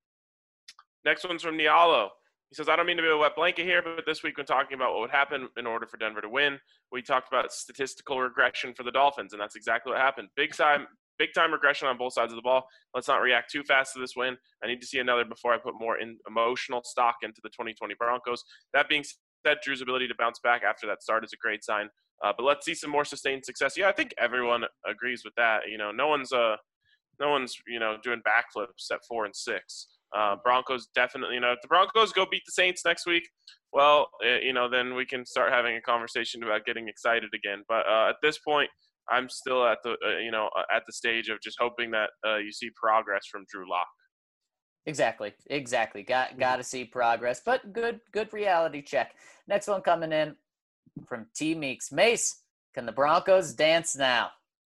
Next one's from Nialo. He says, I don't mean to be a wet blanket here, but this week when talking about what would happen in order for Denver to win, we talked about statistical regression for the Dolphins, and that's exactly what happened. Big time, big time regression on both sides of the ball. Let's not react too fast to this win. I need to see another before I put more in emotional stock into the twenty twenty Broncos. That being said, Drew's ability to bounce back after that start is a great sign. Uh, but let's see some more sustained success. Yeah, I think everyone agrees with that. You know, no one's uh, no one's you know doing backflips at four and six. Uh, Broncos definitely, you know, if the Broncos go beat the Saints next week, well, uh, you know, then we can start having a conversation about getting excited again. But uh, at this point, I'm still at the, uh, you know, at the stage of just hoping that uh, you see progress from Drew Lock. Exactly, exactly. Got got to see progress, but good, good reality check. Next one coming in from T Meeks. Mace, can the Broncos dance now?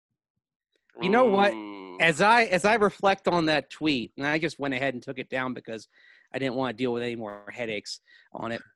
You know what? As I as I reflect on that tweet, and I just went ahead and took it down because I didn't want to deal with any more headaches on it.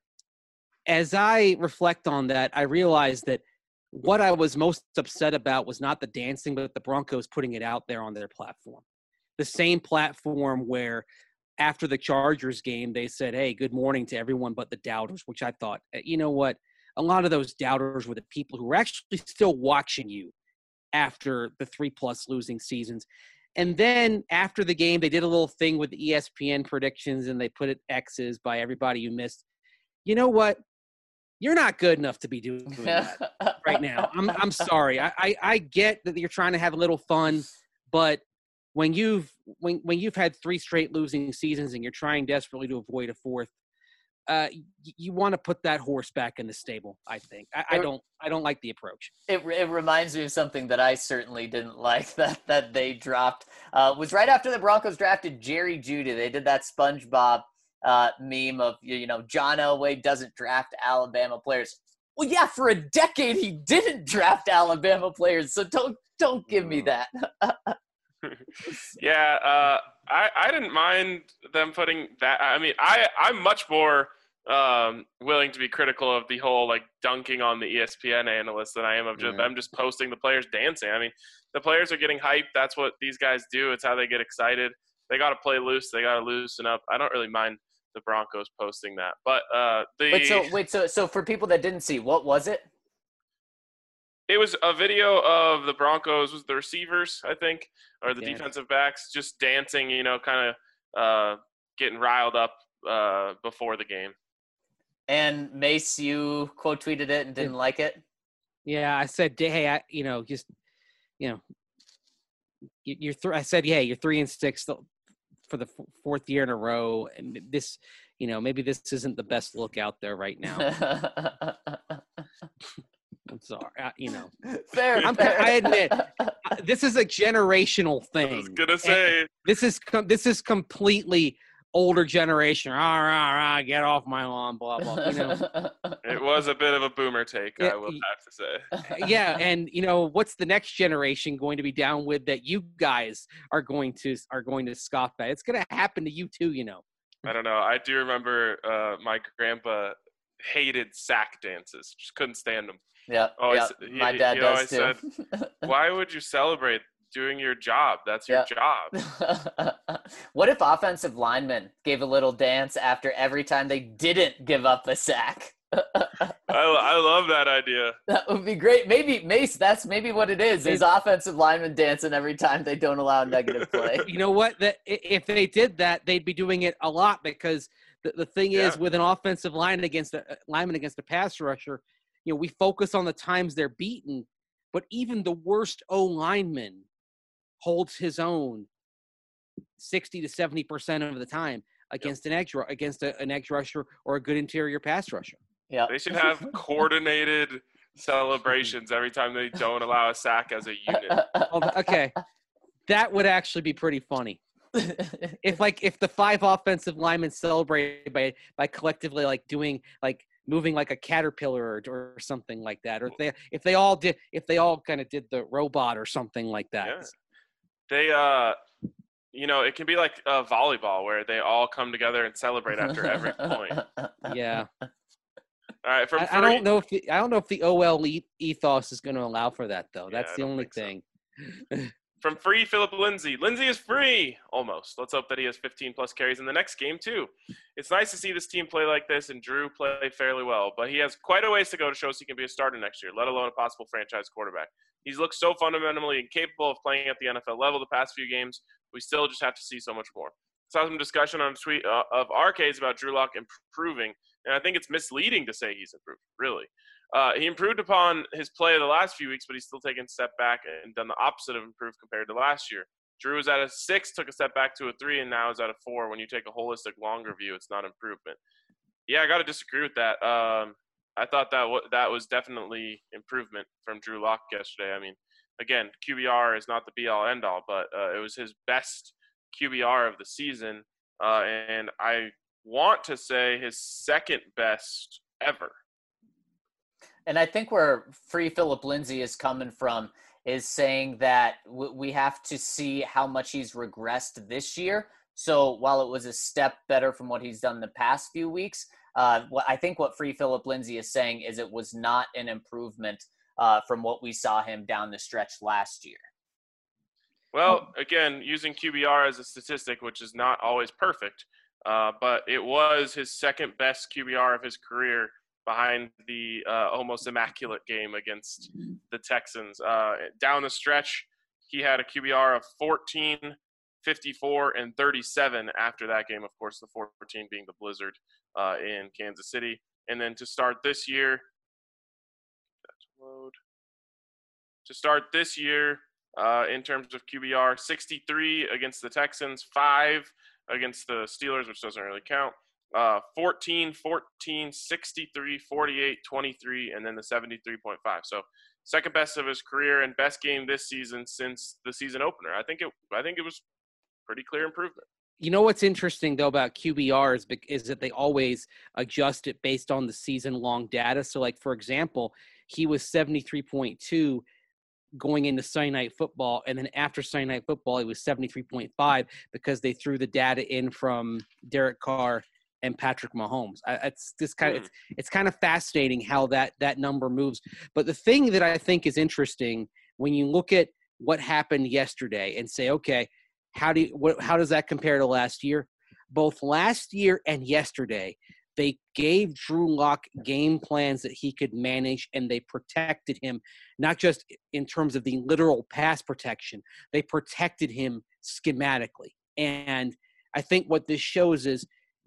As I reflect on that, I realized that what I was most upset about was not the dancing, but the Broncos putting it out there on their platform. The same platform where after the Chargers game, they said, hey, good morning to everyone but the doubters, which I thought, you know what? A lot of those doubters were the people who were actually still watching you after the three-plus losing seasons. And then after the game, they did a little thing with the E S P N predictions, and they put it X's by everybody you missed. You know what? You're not good enough to be doing that right now. I'm I'm sorry. I, I, I get that you're trying to have a little fun, but when you've when when you've had three straight losing seasons and you're trying desperately to avoid a fourth, uh, y- you want to put that horse back in the stable. I think. I, I don't. I don't like the approach. It, it reminds me of something that I certainly didn't like that that they dropped. Uh, was right after the Broncos drafted Jerry Jeudy. They did that SpongeBob uh, meme of you know John Elway doesn't draft Alabama players. Well, yeah, for a decade he didn't draft Alabama players. So don't don't give me that. yeah, uh, I I didn't mind them putting that. I mean, I I'm much more um, willing to be critical of the whole like dunking on the E S P N analysts than I am of just, Mm. them just posting the players dancing. I mean, the players are getting hyped. That's what these guys do. It's how they get excited. They got to play loose. They got to loosen up. I don't really mind the Broncos posting that, but uh, the Wait, so wait, so so for people that didn't see, what was it? it was a video of the Broncos, was the receivers, I think, or the Yeah. defensive backs, just dancing, you know, kind of uh, getting riled up uh, before the game. And Mace, you quote tweeted it and didn't like it. Yeah, I said, hey, I, you know, just, you know, you- you're. Th- I said, yeah, you're three and six for the f- fourth year in a row, and this, you know, maybe this isn't the best look out there right now. I'm sorry, uh, you know. fair, I'm, fair. I admit, this is a generational thing. I was gonna And say, this is com- this is completely older generation. Rah, rah, rah, get off my lawn, blah blah. You know. it was a bit of a boomer take, Yeah, I will y- have to say. Yeah, and you know what's the next generation going to be down with that you guys are going to are going to scoff at? It's going to happen to you too, you know. I don't know. I do remember uh, my grandpa hated sack dances. Just couldn't stand them. Yeah, Always- yeah. he- My dad he does always too. Why would you celebrate doing your job? That's your Yeah. job. What if offensive linemen gave a little dance after every time they didn't give up a sack? I, I love that idea. That would be great. Maybe Mace, that's maybe what it is. Is offensive linemen dancing every time they don't allow negative play. You know what? That i- if they did that, they'd be doing it a lot because the, the thing is, Yeah. with an offensive line against a lineman against a pass rusher, you know, we focus on the times they're beaten, but even the worst O lineman holds his own sixty to seventy percent of the time against an edge ru- against a, an edge rusher or a good interior pass rusher. Yeah. They should have coordinated celebrations every time they don't allow a sack as a unit. Although- okay, that would actually be pretty funny. If like if the five offensive linemen celebrate by by collectively like doing like moving like a caterpillar or, or something like that, or if they if they all did if they all kind of did the robot or something like that. Yeah. They, uh, you know, it can be like uh, volleyball where they all come together and celebrate after every point. Yeah. All right, from I, I three- don't know if the, I don't know if the O L e- ethos is going to allow for that though. Yeah, That's I the don't only think so. thing. From free Philip Lindsay. Lindsay is free, almost. Let's hope that he has fifteen plus carries in the next game too. It's nice to see this team play like this and Drew play fairly well, but he has quite a ways to go to show us he can be a starter next year, let alone a possible franchise quarterback. He's looked so fundamentally incapable of playing at the N F L level the past few games. We still just have to see so much more. Saw some discussion on a tweet uh, of R K's about Drew Lock improving, and I think it's misleading to say he's improved, really. Uh, he improved upon his play of the last few weeks, but he's still taken a step back and done the opposite of improve compared to last year. Drew was at a six, took a step back to a three, and now is at a four. When you take a holistic, longer view, it's not improvement. Yeah, I got to disagree with that. Um, I thought that w- that was definitely improvement from Drew Lock yesterday. I mean, again, Q B R is not the be-all, end-all, but uh, it was his best Q B R of the season, uh, and I want to say his second best ever. And I think where Free Philip Lindsay is coming from is saying that w- we have to see how much he's regressed this year. So while it was a step better from what he's done the past few weeks, uh, what I think what Free Philip Lindsay is saying is it was not an improvement uh, from what we saw him down the stretch last year. Well, again, using Q B R as a statistic, which is not always perfect, uh, but it was his second best Q B R of his career behind the uh, almost immaculate game against the Texans. Uh, down the stretch, he had a Q B R of fourteen, fifty-four, and thirty-seven after that game, of course, the fourteen being the blizzard uh, in Kansas City. And then to start this year, that's load. To start this year, uh, in terms of Q B R, sixty-three against the Texans, five against the Steelers, which doesn't really count, uh, fourteen, fourteen, sixty-three, forty-eight, twenty-three, and then the seventy-three point five. So second best of his career and best game this season since the season opener. I think it. I think it was pretty clear improvement. You know what's interesting though about Q B R is, is that they always adjust it based on the season-long data. So, like for example, he was seventy-three point two going into Sunday Night Football, and then after Sunday Night Football, he was seventy-three point five because they threw the data in from Derek Carr and Patrick Mahomes. I, it's this kind of mm. it's, it's kind of fascinating how that that number moves. But the thing that I think is interesting when you look at what happened yesterday and say, okay, how do you, what, how does that compare to last year? Both last year and yesterday, they gave Drew Lock game plans that he could manage, and they protected him, not just in terms of the literal pass protection. They protected him schematically. And I think what this shows is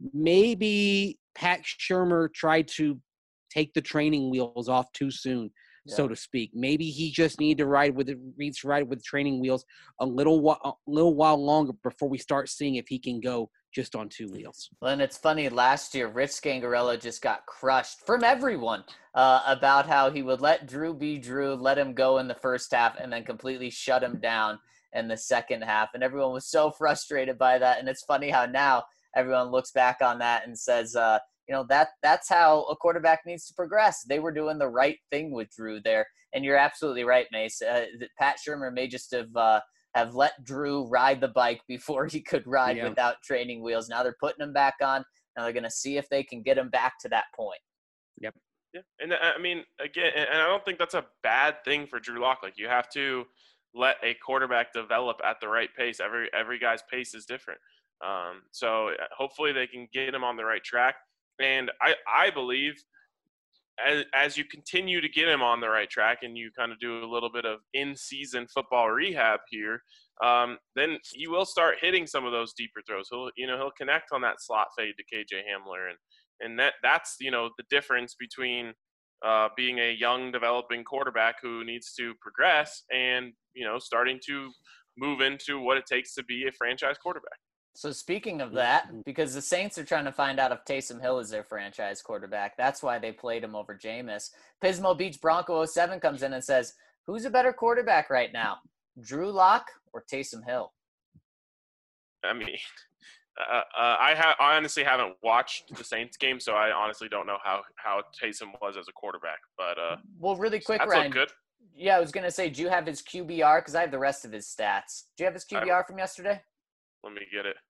maybe Pat Shurmur tried to take the training wheels off too soon, yeah. so to speak. Maybe he just needed to ride with it, needs to ride with training wheels a little while, a little while longer before we start seeing if he can go just on two wheels. Well, and it's funny, last year, Rich Scangarello just got crushed from everyone uh, about how he would let Drew be Drew, let him go in the first half, and then completely shut him down in the second half. And everyone was so frustrated by that. And it's funny how now everyone looks back on that and says, uh, you know, that that's how a quarterback needs to progress. They were doing the right thing with Drew there. And you're absolutely right, Mace. Uh, Pat Shurmur may just have uh, – have let Drew ride the bike before he could ride yeah. without training wheels. Now they're putting him back on. Now they're going to see if they can get him back to that point. Yep. Yeah. And I mean, again, and I don't think that's a bad thing for Drew Lock. Like, you have to let a quarterback develop at the right pace. Every, every guy's pace is different. Um, so hopefully they can get him on the right track. And I, I believe As, as you continue to get him on the right track and you kind of do a little bit of in-season football rehab here, um, then he will start hitting some of those deeper throws. He'll, you know, he'll connect on that slot fade to K J Hamler, and and that that's you know the difference between uh, being a young developing quarterback who needs to progress and you know starting to move into what it takes to be a franchise quarterback. So speaking of that, because the Saints are trying to find out if Taysom Hill is their franchise quarterback, that's why they played him over Jameis. Pismo Beach Bronco oh seven comes in and says, who's a better quarterback right now, Drew Lock or Taysom Hill? I mean, uh, uh, I, ha- I honestly haven't watched the Saints game, so I honestly don't know how, how Taysom was as a quarterback. But uh, well, really quick, that's Ryan. Good. Yeah, I was going to say, do you have his Q B R? Because I have the rest of his stats. Do you have his Q B R from yesterday? Let me get it.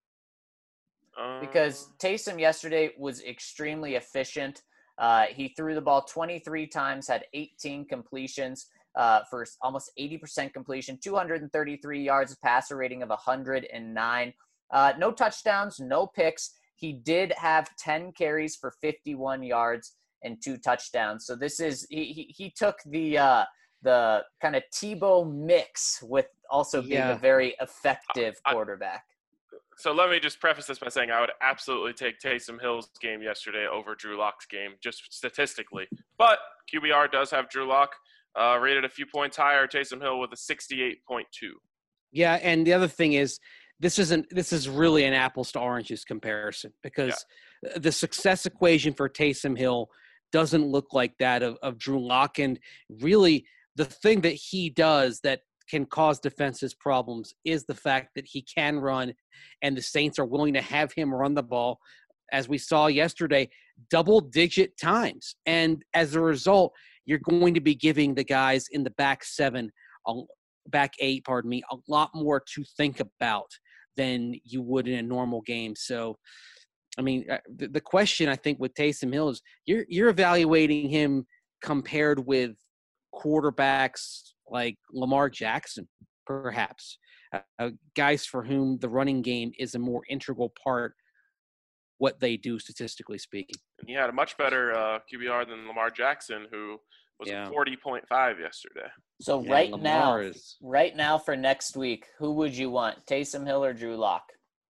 Um, because Taysom yesterday was extremely efficient. Uh, he threw the ball twenty-three times, had eighteen completions uh, for almost eighty percent completion, two hundred thirty-three yards, a passer rating of one hundred nine. Uh, no touchdowns, no picks. He did have ten carries for fifty-one yards and two touchdowns. So this is he he, he took the uh, the kind of Tebow mix with also being yeah. a very effective quarterback. So let me just preface this by saying I would absolutely take Taysom Hill's game yesterday over Drew Lock's game, just statistically. But Q B R does have Drew Lock uh, rated a few points higher. Taysom Hill with a sixty-eight point two. Yeah, and the other thing is, this isn't this is really an apples to oranges comparison because yeah. the success equation for Taysom Hill doesn't look like that of, of Drew Lock. And really, the thing that he does that can cause defenses problems is the fact that he can run, and the Saints are willing to have him run the ball, as we saw yesterday, double-digit times. And as a result, you're going to be giving the guys in the back seven, back eight, pardon me, a lot more to think about than you would in a normal game. So, I mean, the, the question I think with Taysom Hill is you're you're evaluating him compared with quarterbacks like Lamar Jackson, perhaps, uh, guys for whom the running game is a more integral part what they do statistically speaking. And he had a much better uh, Q B R than Lamar Jackson, who was yeah. forty point five yesterday. So yeah, right Lamar now, is... right now for next week, who would you want, Taysom Hill or Drew Lock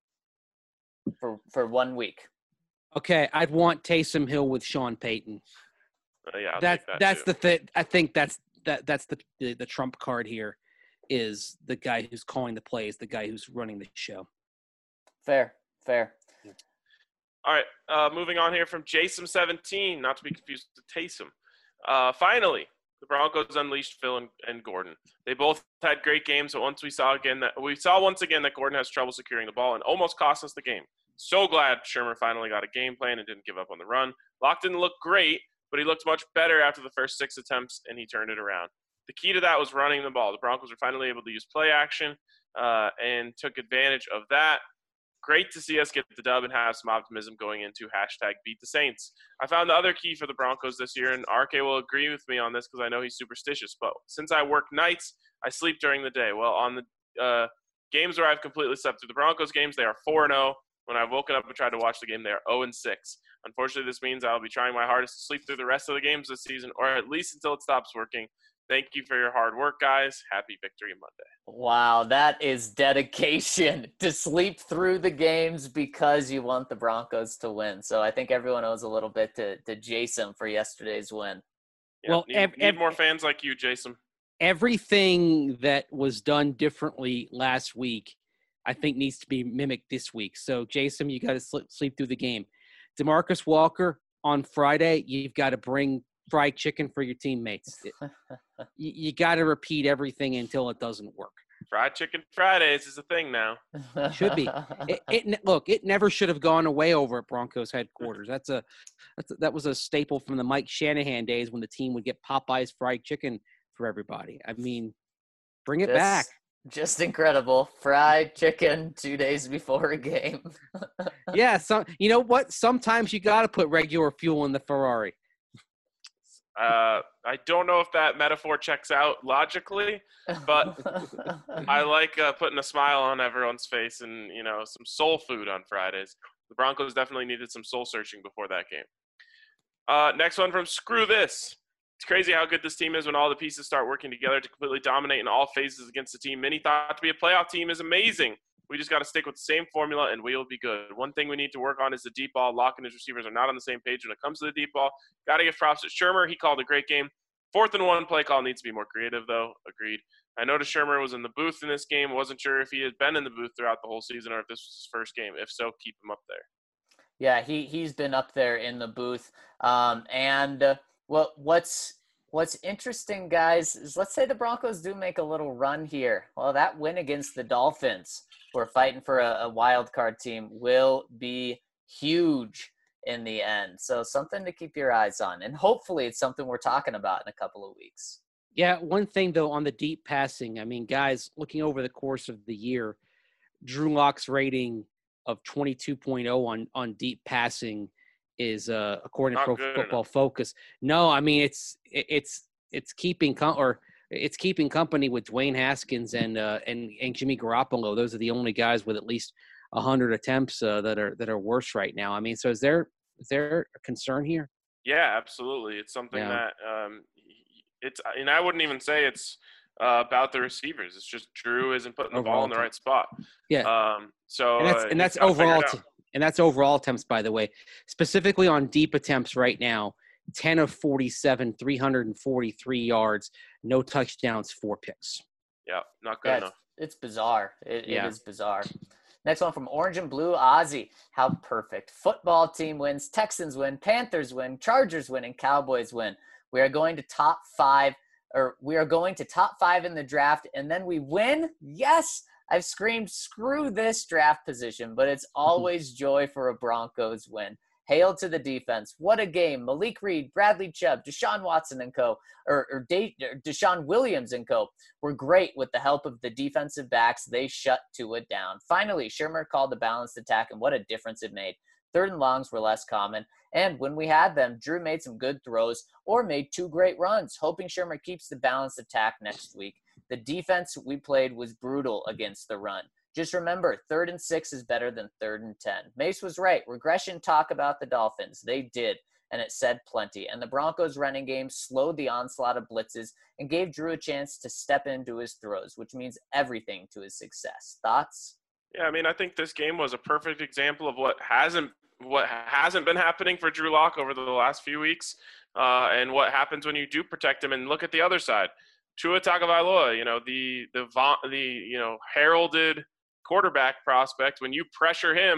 for for one week? Okay, I'd want Taysom Hill with Sean Payton. Uh, yeah, I'll that, take that that's too. the thing. I think that's that that's the, the the trump card here is the guy who's calling the plays, the guy who's running the show. Fair, fair. All right, uh, moving on here from Jason seventeen, not to be confused with Taysom. Uh, finally, the Broncos unleashed Phil and, and Gordon. They both had great games, but once we saw again that we saw once again that Gordon has trouble securing the ball and almost cost us the game. So glad Shurmur finally got a game plan and didn't give up on the run. Locke didn't look great, but he looked much better after the first six attempts, and he turned it around. The key to that was running the ball. The Broncos were finally able to use play action uh, and took advantage of that. Great to see us get the dub and have some optimism going into hashtag beat the Saints. I found the other key for the Broncos this year, and R K will agree with me on this because I know he's superstitious, but since I work nights, I sleep during the day. Well, on the uh, games where I've completely slept through the Broncos games, they are four and oh. When I've woken up and tried to watch the game, they are oh and six. Unfortunately, this means I'll be trying my hardest to sleep through the rest of the games this season, or at least until it stops working. Thank you for your hard work, guys. Happy Victory Monday. Wow, that is dedication to sleep through the games because you want the Broncos to win. So I think everyone owes a little bit to, to Jason for yesterday's win. Yeah, Well, need, ev- need ev- more fans like you, Jason. Everything that was done differently last week, I think, needs to be mimicked this week. So, Jason, you got to sleep, sleep through the game. DeMarcus Walker on Friday, you've got to bring fried chicken for your teammates. It, you you got to repeat everything until it doesn't work. Fried Chicken Fridays is a thing now. Should be. It, it look. It never should have gone away over at Broncos headquarters. That's a, that's a that was a staple from the Mike Shanahan days when the team would get Popeye's fried chicken for everybody. I mean, bring it Just- back. Just incredible. Fried chicken two days before a game. Yeah. Some. You know what? Sometimes you got to put regular fuel in the Ferrari. Uh, I don't know if that metaphor checks out logically, but I like uh, putting a smile on everyone's face and, you know, some soul food on Fridays. The Broncos definitely needed some soul searching before that game. Uh, next one from Screw This. It's crazy how good this team is when all the pieces start working together to completely dominate in all phases against the team many thought to be a playoff team is amazing. We just got to stick with the same formula, and we will be good. One thing we need to work on is the deep ball. Locke and his receivers are not on the same page when it comes to the deep ball. Got to give props to Shurmur. He called a great game. Fourth and one play call needs to be more creative, though. Agreed. I noticed Shurmur was in the booth in this game. Wasn't sure if he had been in the booth throughout the whole season or if this was his first game. If so, keep him up there. Yeah, he he's been up there in the booth. Um, and uh, what what's what's interesting, guys, is let's say the Broncos do make a little run here. Well, that win against the Dolphins, we're fighting for a, a wild card team, will be huge in the end. So something to keep your eyes on, and hopefully it's something we're talking about in a couple of weeks. Yeah, one thing, though, on the deep passing, I mean, guys, looking over the course of the year, Drew Lock's rating of twenty-two point oh on, on deep passing is, uh, according Not to Pro good Football enough. Focus. No, I mean, it's it's it's keeping com- or it's keeping company with Dwayne Haskins and uh, and and Jimmy Garoppolo. Those are the only guys with at least one hundred attempts uh, that are that are worse right now. I mean, so is there is there a concern here? Yeah, absolutely. It's something Yeah. that um, it's, and I wouldn't even say it's uh, about the receivers. It's just Drew isn't putting the Overall ball in the team. right spot. Yeah. Um, so And that's uh, and that's he's gotta figure overall it t- out. and that's overall attempts, by the way. Specifically on deep attempts right now, ten of forty-seven, three hundred forty-three yards, no touchdowns, four picks. Yeah, not good Yeah, enough. it's, it's bizarre. It, Yeah. it is bizarre. Next one from Orange and Blue, Ozzy. How perfect. Football team wins, Texans win, Panthers win, Chargers win, and Cowboys win. We are going to top five, or we are going to top five in the draft, and then we win? Yes! I've screamed, screw this draft position, but it's always joy for a Broncos win. Hail to the defense. What a game. Malik Reed, Bradley Chubb, Deshaun Watson and co., or, or, De- or Deshaun Williams and co. were great with the help of the defensive backs. They shut Tua down. Finally, Shurmur called the balanced attack, and what a difference it made. Third and longs were less common, and when we had them, Drew made some good throws or made two great runs, hoping Shurmur keeps the balanced attack next week. The defense we played was brutal against the run. Just remember, third and six is better than third and ten. Mace was right. Regression talk about the Dolphins. They did, and it said plenty. And the Broncos' running game slowed the onslaught of blitzes and gave Drew a chance to step into his throws, which means everything to his success. Thoughts? Yeah, I mean, I think this game was a perfect example of what hasn't what hasn't been happening for Drew Lock over the last few weeks, uh, and what happens when you do protect him. And look at the other side, Tua Tagovailoa. You know, the the the you know heralded quarterback prospect. When you pressure him,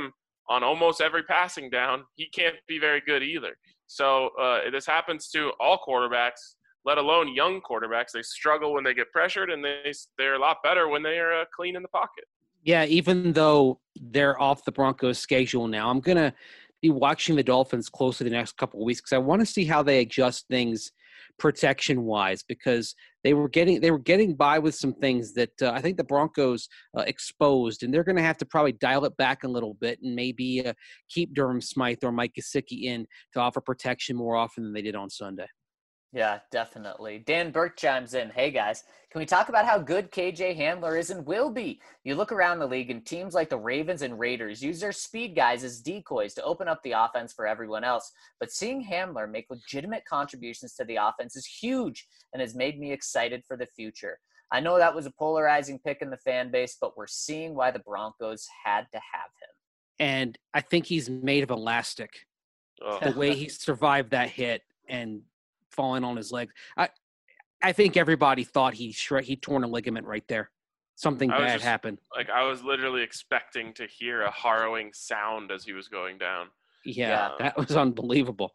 on almost every passing down, he can't be very good either. So uh, this happens to all quarterbacks, let alone young quarterbacks. They struggle when they get pressured, and they, they're a lot better when they are uh, clean in the pocket. Yeah, even though they're off the Broncos' schedule now, I'm going to be watching the Dolphins closely the next couple of weeks because I want to see how they adjust things protection-wise, because they were getting they were getting by with some things that uh, I think the Broncos uh, exposed, and they're going to have to probably dial it back a little bit and maybe uh, keep Durham Smythe or Mike Gesicki in to offer protection more often than they did on Sunday. Yeah, definitely. Dan Burke chimes in. Hey, guys, can we talk about how good K J Hamler is and will be? You look around the league and teams like the Ravens and Raiders use their speed guys as decoys to open up the offense for everyone else. But seeing Hamler make legitimate contributions to the offense is huge and has made me excited for the future. I know that was a polarizing pick in the fan base, but we're seeing why the Broncos had to have him. And I think he's made of elastic. Oh. The way he survived that hit and falling on his legs. I I think everybody thought he shre- he torn a ligament right there. Something bad just, happened. Like I was literally expecting to hear a harrowing sound as he was going down. Yeah, uh, that was unbelievable.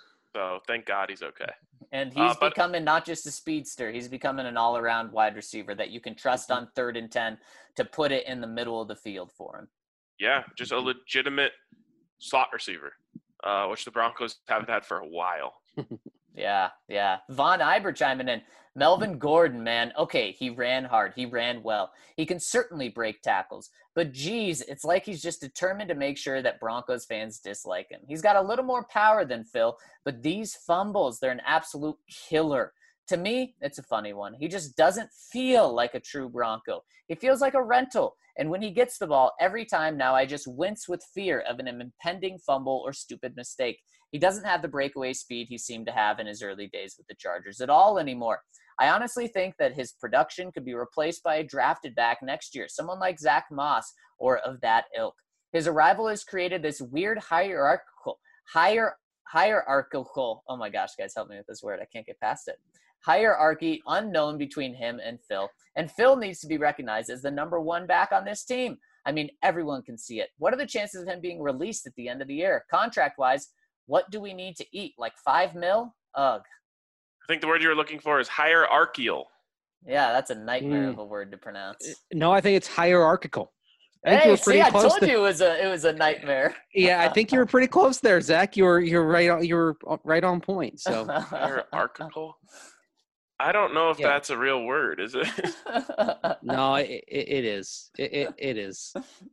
So thank God he's okay. And he's uh, but, becoming not just a speedster, he's becoming an all-around wide receiver that you can trust on third and ten to put it in the middle of the field for him. Yeah, just a legitimate slot receiver, uh, which the Broncos haven't had for a while. Yeah, yeah. Von Iber chiming in. Melvin Gordon, man. Okay, he ran hard. He ran well. He can certainly break tackles. But geez, it's like he's just determined to make sure that Broncos fans dislike him. He's got a little more power than Phil, but these fumbles, they're an absolute killer. To me, it's a funny one. He just doesn't feel like a true Bronco. He feels like a rental. And when he gets the ball, every time now I just wince with fear of an impending fumble or stupid mistake. He doesn't have the breakaway speed he seemed to have in his early days with the Chargers at all anymore. I honestly think that his production could be replaced by a drafted back next year, someone like Zach Moss or of that ilk. His arrival has created this weird hierarchical, higher, hierarchical, oh my gosh, guys, help me with this word. I can't get past it. Hierarchy unknown between him and Phil. And Phil needs to be recognized as the number one back on this team. I mean, everyone can see it. What are the chances of him being released at the end of the year? Contract-wise, what do we need to eat? Like five mil? Ugh. I think the word you were looking for is hierarchical. Yeah, that's a nightmare mm. of a word to pronounce. No, I think it's hierarchical. I think hey, you were pretty see, I close told to... you it was a it was a nightmare. Yeah, I think you were pretty close there, Zach. You were you're right on you were right on point. So hierarchical. I don't know if yeah. that's a real word, is it? No, it, it is. It, it, it is.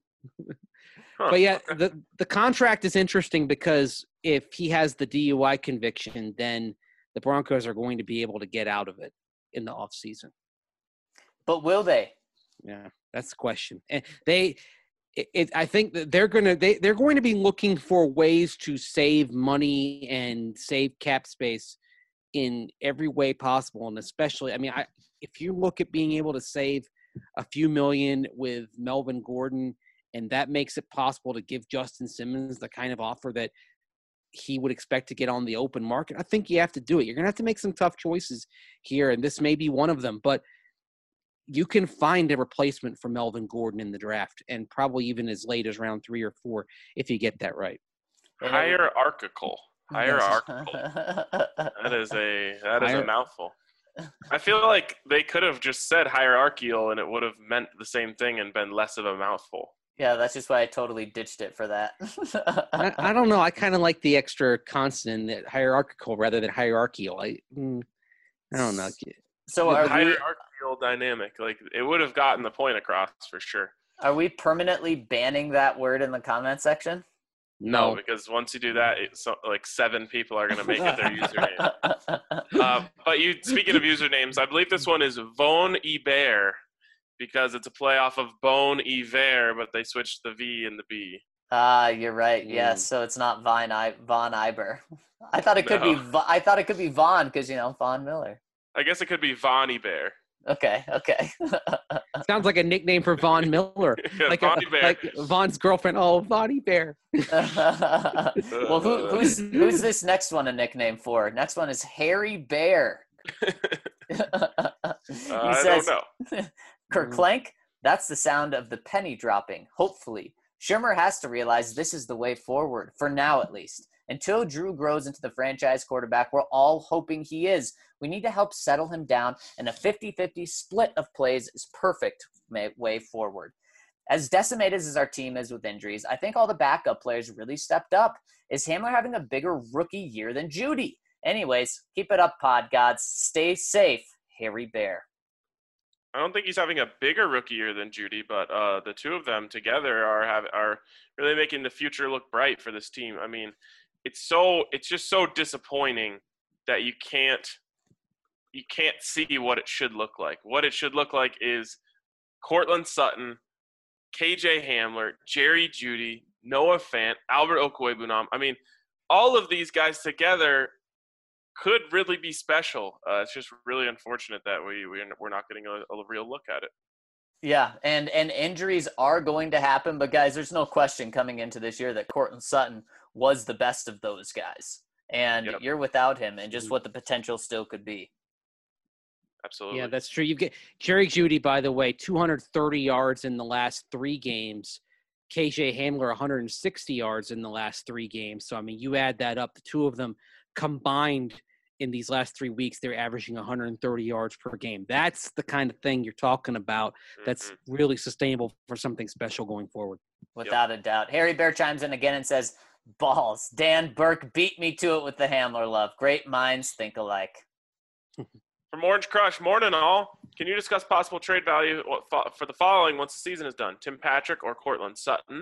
Huh. But yeah, the the contract is interesting because if he has the D U I conviction, then the Broncos are going to be able to get out of it in the offseason. But will they? Yeah, that's the question. And they, it, it, I think that they're going to they they're going to be looking for ways to save money and save cap space in every way possible, and especially, I mean, I if you look at being able to save a few million with Melvin Gordon, and that makes it possible to give Justin Simmons the kind of offer that he would expect to get on the open market, I think you have to do it. You're going to have to make some tough choices here, and this may be one of them, but you can find a replacement for Melvin Gordon in the draft, and probably even as late as round three or four if you get that right. Hierarchical. Hierarchical. That is a that is Hier- a mouthful. I feel like they could have just said hierarchical and it would have meant the same thing and been less of a mouthful. Yeah, that's just why I totally ditched it for that. I, I don't know. I kind of like the extra consonant, hierarchical, rather than hierarchical. I, mm, I don't know. So are hierarchical we, dynamic, like it would have gotten the point across for sure. Are we permanently banning that word in the comment section? No, no, because once you do that, it's like seven people are going to make it their username. uh, but you, speaking of usernames, I believe this one is Von Iber because it's a play off of Bon Iver, but they switched the V and the B. Ah, uh, you're right. Mm. Yes, so it's not Vine I, Von Iber. I thought it could no. be. I thought it could be Von because you know Von Miller. I guess it could be Von Iber. Okay, okay. Sounds like a nickname for Von Miller. Yeah, like, Von a, like Von's girlfriend. Oh, Vonnie Bear. Well, who, who's who's this next one a nickname for? Next one is Harry Bear. he uh, I says, don't know. Kerclank, that's the sound of the penny dropping. Hopefully. Shurmur has to realize this is the way forward, for now at least. Until Drew grows into the franchise quarterback we're all hoping he is, we need to help settle him down, and a fifty-fifty split of plays is perfect way forward. As decimated as our team is with injuries, I think all the backup players really stepped up. Is Hamler having a bigger rookie year than Jeudy? Anyways, keep it up, pod gods. Stay safe, Harry Bear. I don't think he's having a bigger rookie year than Jeudy, but uh, the two of them together are have, are really making the future look bright for this team. I mean, it's so it's just so disappointing that you can't you can't see what it should look like. What it should look like is Courtland Sutton, K J Hamler, Jerry Jeudy, Noah Fant, Albert Okwuegbunam. I mean, all of these guys together could really be special. Uh, it's just really unfortunate that we, we we're not getting a, a real look at it. Yeah, and and injuries are going to happen, but guys, there's no question coming into this year that Courtland Sutton was the best of those guys, and yep. You're without him, and just what the potential still could be. Absolutely. Yeah, that's true. You get Jerry Jeudy, by the way, two hundred thirty yards in the last three games. K J Hamler, one hundred sixty yards in the last three games. So, I mean, you add that up, the two of them combined in these last three weeks, they're averaging one hundred thirty yards per game. That's the kind of thing you're talking about that's mm-hmm. really sustainable for something special going forward. Without yep. a doubt. Harry Bear chimes in again and says, balls, Dan Burke beat me to it with the Hamler love. Great minds think alike. From Orange Crush, morning all. Can you discuss possible trade value for the following once the season is done? Tim Patrick or Courtland Sutton?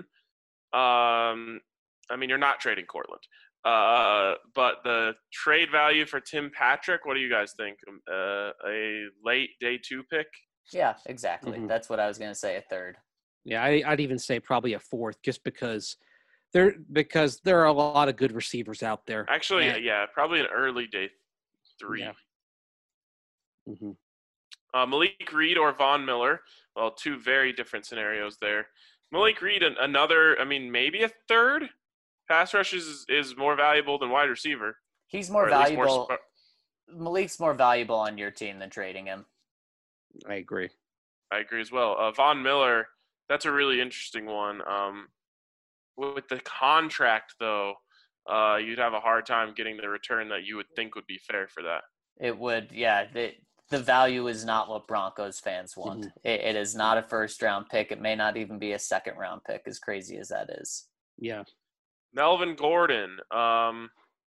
Um, I mean, you're not trading Courtland. Uh, but the trade value for Tim Patrick, what do you guys think? Uh, a late day two pick? Yeah, exactly. Mm-hmm. That's what I was going to say, a third. Yeah, I, I'd even say probably a fourth, just because there because there are a lot of good receivers out there. Actually, and, yeah, probably an early day three. Yeah. Mm-hmm. Uh, Malik Reed or Von Miller. Well, two very different scenarios there. Malik Reed, another, I mean, maybe a third. Pass rush is, is more valuable than wide receiver. He's more valuable. More sp- Malik's more valuable on your team than trading him. I agree. I agree as well. Uh, Von Miller, that's a really interesting one. Um, with the contract, though, uh, you'd have a hard time getting the return that you would think would be fair for that. It would, yeah. The, the value is not what Broncos fans want. Mm-hmm. It, it is not a first-round pick. It may not even be a second-round pick, as crazy as that is. Yeah. Melvin Gordon. Um,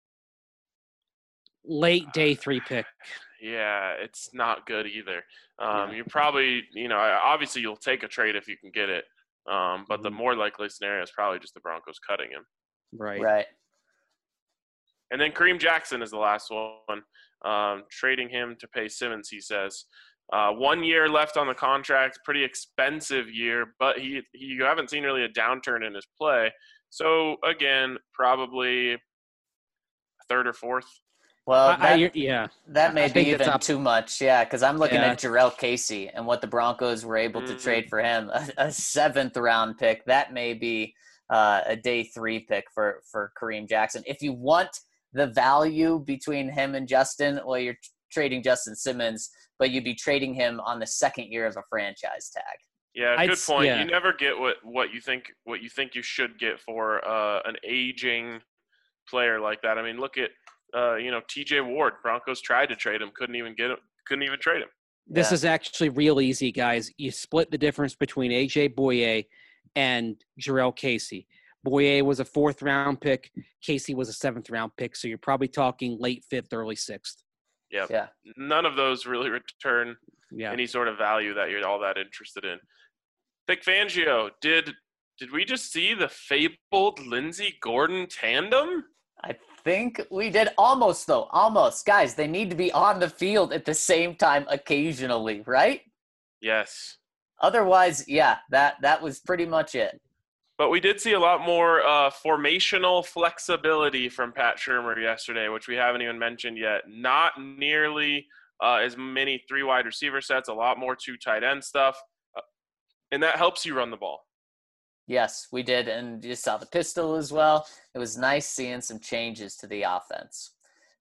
Late day three pick. Yeah, it's not good either. Um, yeah. You probably, you know, obviously you'll take a trade if you can get it. Um, but mm-hmm. the more likely scenario is probably just the Broncos cutting him. Right. Right. And then Kareem Jackson is the last one. Um, trading him to pay Simmons, he says. Uh, one year left on the contract, pretty expensive year, but he, he you haven't seen really a downturn in his play. So, again, probably a third or fourth. Well, that, I, I, yeah. that may I be even too much, yeah, because I'm looking yeah. at Jarrell Casey and what the Broncos were able mm-hmm. to trade for him, a, a seventh-round pick. That may be uh, a day three pick for, for Kareem Jackson. If you want the value between him and Justin, well, you're trading Justin Simmons, but you'd be trading him on the second year of a franchise tag. Yeah, I'd, good point. yeah. You never get what, what you think what you think you should get for uh, an aging player like that. I mean, look at uh, you know T J Ward. Broncos tried to trade him, couldn't even get him, couldn't even trade him. This yeah. is actually real easy, guys. You split the difference between A J Bouye and Jarrell Casey. Bouye was a fourth round pick. Casey was a seventh round pick. So you're probably talking late fifth, early sixth. Yep. Yeah. None of those really return yeah. any sort of value that you're all that interested in. Vic Fangio, did did we just see the fabled Lindsey Gordon tandem? I think we did. Almost, though. Almost. Guys, they need to be on the field at the same time occasionally, right? Yes. Otherwise, yeah, that, that was pretty much it. But we did see a lot more uh, formational flexibility from Pat Shurmur yesterday, which we haven't even mentioned yet. Not nearly uh, as many three wide receiver sets, a lot more two tight end stuff. Uh, and that helps you run the ball. Yes, we did. And you saw the pistol as well. It was nice seeing some changes to the offense.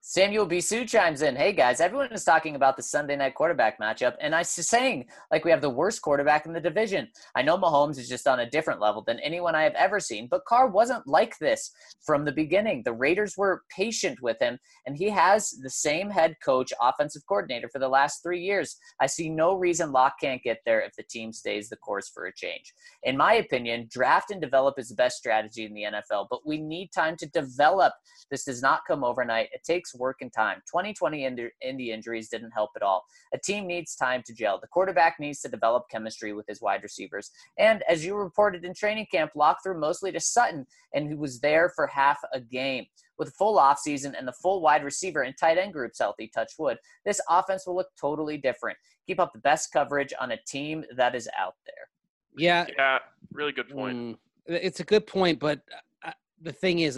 Samuel Bisou chimes in. Hey, guys, everyone is talking about the Sunday night quarterback matchup, and I was saying, like, we have the worst quarterback in the division. I know Mahomes is just on a different level than anyone I have ever seen, but Carr wasn't like this from the beginning. The Raiders were patient with him, and he has the same head coach, offensive coordinator for the last three years. I see no reason Locke can't get there if the team stays the course for a change. In my opinion, draft and develop is the best strategy in the N F L, but we need time to develop. This does not come overnight. It takes work and time. twenty twenty Indy injuries didn't help at all. A team needs time to gel. The quarterback needs to develop chemistry with his wide receivers. And as you reported in training camp, Locke threw mostly to Sutton, and he was there for half a game. With a full offseason and the full wide receiver and tight end groups healthy, touch wood, this offense will look totally different. Keep up the best coverage on a team that is out there. Yeah. Yeah, really good point. Mm, it's a good point, but uh, the thing is,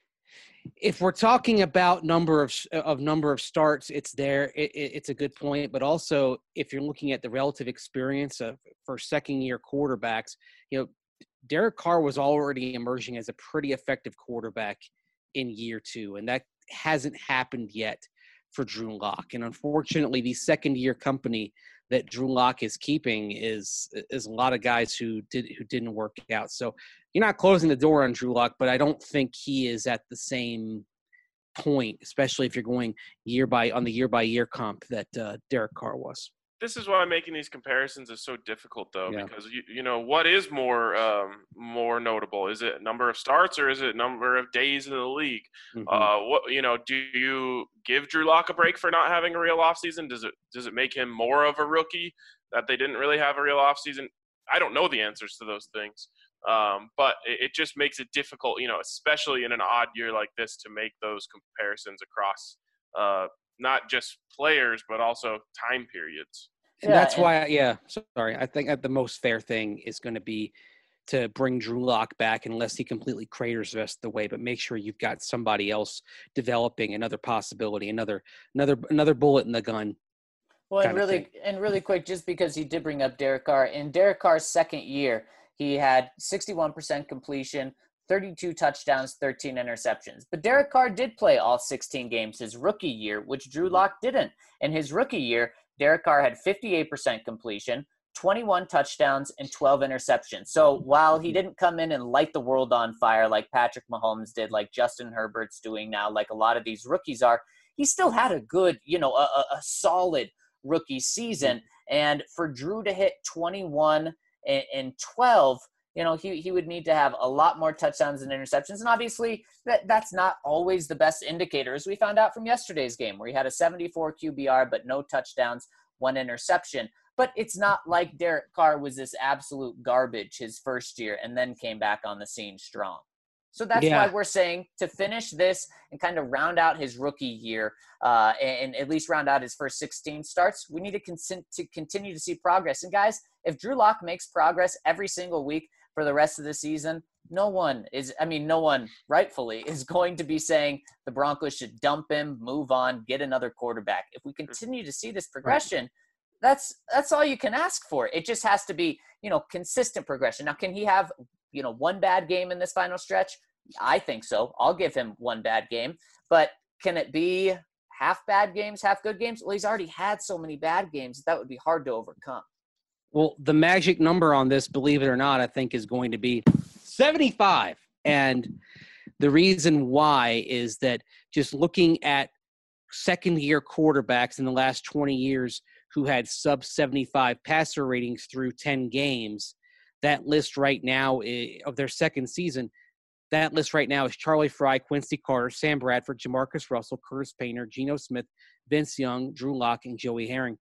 if we're talking about number of of number of starts, it's there. It, it, it's a good point, but also if you're looking at the relative experience of for second year quarterbacks, you know, Derek Carr was already emerging as a pretty effective quarterback in year two, and that hasn't happened yet for Drew Lock. And unfortunately, the second year company that Drew Lock is keeping is is a lot of guys who did who didn't work out. So you're not closing the door on Drew Lock, but I don't think he is at the same point, especially if you're going year by on the year by year comp that uh, Derek Carr was. This is why making these comparisons is so difficult, though, Yeah. because you you know what is more um, more notable? Is it number of starts or is it number of days in the league? Mm-hmm. Uh, what you know? Do you give Drew Lock a break for not having a real offseason? Does it does it make him more of a rookie that they didn't really have a real offseason? I don't know the answers to those things, um, but it, it just makes it difficult, you know, especially in an odd year like this, to make those comparisons across uh, not just players but also time periods. And Yeah, that's and- why, yeah, sorry. I think the most fair thing is going to be to bring Drew Lock back unless he completely craters the rest of the way, but make sure you've got somebody else developing another possibility, another another another bullet in the gun. Well, and kind of really, thing. and really quick, just because you did bring up Derek Carr, in Derek Carr's second year, he had sixty-one percent completion, thirty-two touchdowns, thirteen interceptions. But Derek Carr did play all sixteen games his rookie year, which Drew Lock didn't. In his rookie year, Derek Carr had fifty-eight percent completion, twenty-one touchdowns, and twelve interceptions. So while he didn't come in and light the world on fire like Patrick Mahomes did, like Justin Herbert's doing now, like a lot of these rookies are, he still had a good, you know, a, a, a solid rookie season. And for Drew to hit twenty-one and, and twelve, you know, he, he would need to have a lot more touchdowns and interceptions. And obviously that, that's not always the best indicator, as we found out from yesterday's game where he had a seventy-four Q B R, but no touchdowns, one interception. But it's not like Derek Carr was this absolute garbage his first year and then came back on the scene strong. So that's Yeah. why we're saying to finish this and kind of round out his rookie year uh, and, and at least round out his first sixteen starts, we need to, con- to continue to see progress. And guys, if Drew Lock makes progress every single week for the rest of the season, no one is, I mean, no one rightfully is going to be saying the Broncos should dump him, move on, get another quarterback. If we continue to see this progression, that's that's all you can ask for. It just has to be, you know, consistent progression. Now, can he have, you know, one bad game in this final stretch? I think so. I'll give him one bad game. But can it be half bad games, half good games? Well, he's already had so many bad games that would be hard to overcome. Well, the magic number on this, believe it or not, I think is going to be seventy-five. And the reason why is that just looking at second-year quarterbacks in the last twenty years who had sub seventy-five passer ratings through ten games, that list right now is, of their second season, that list right now is Charlie Fry, Quincy Carter, Sam Bradford, Jamarcus Russell, Curtis Painter, Geno Smith, Vince Young, Drew Lock, and Joey Harrington.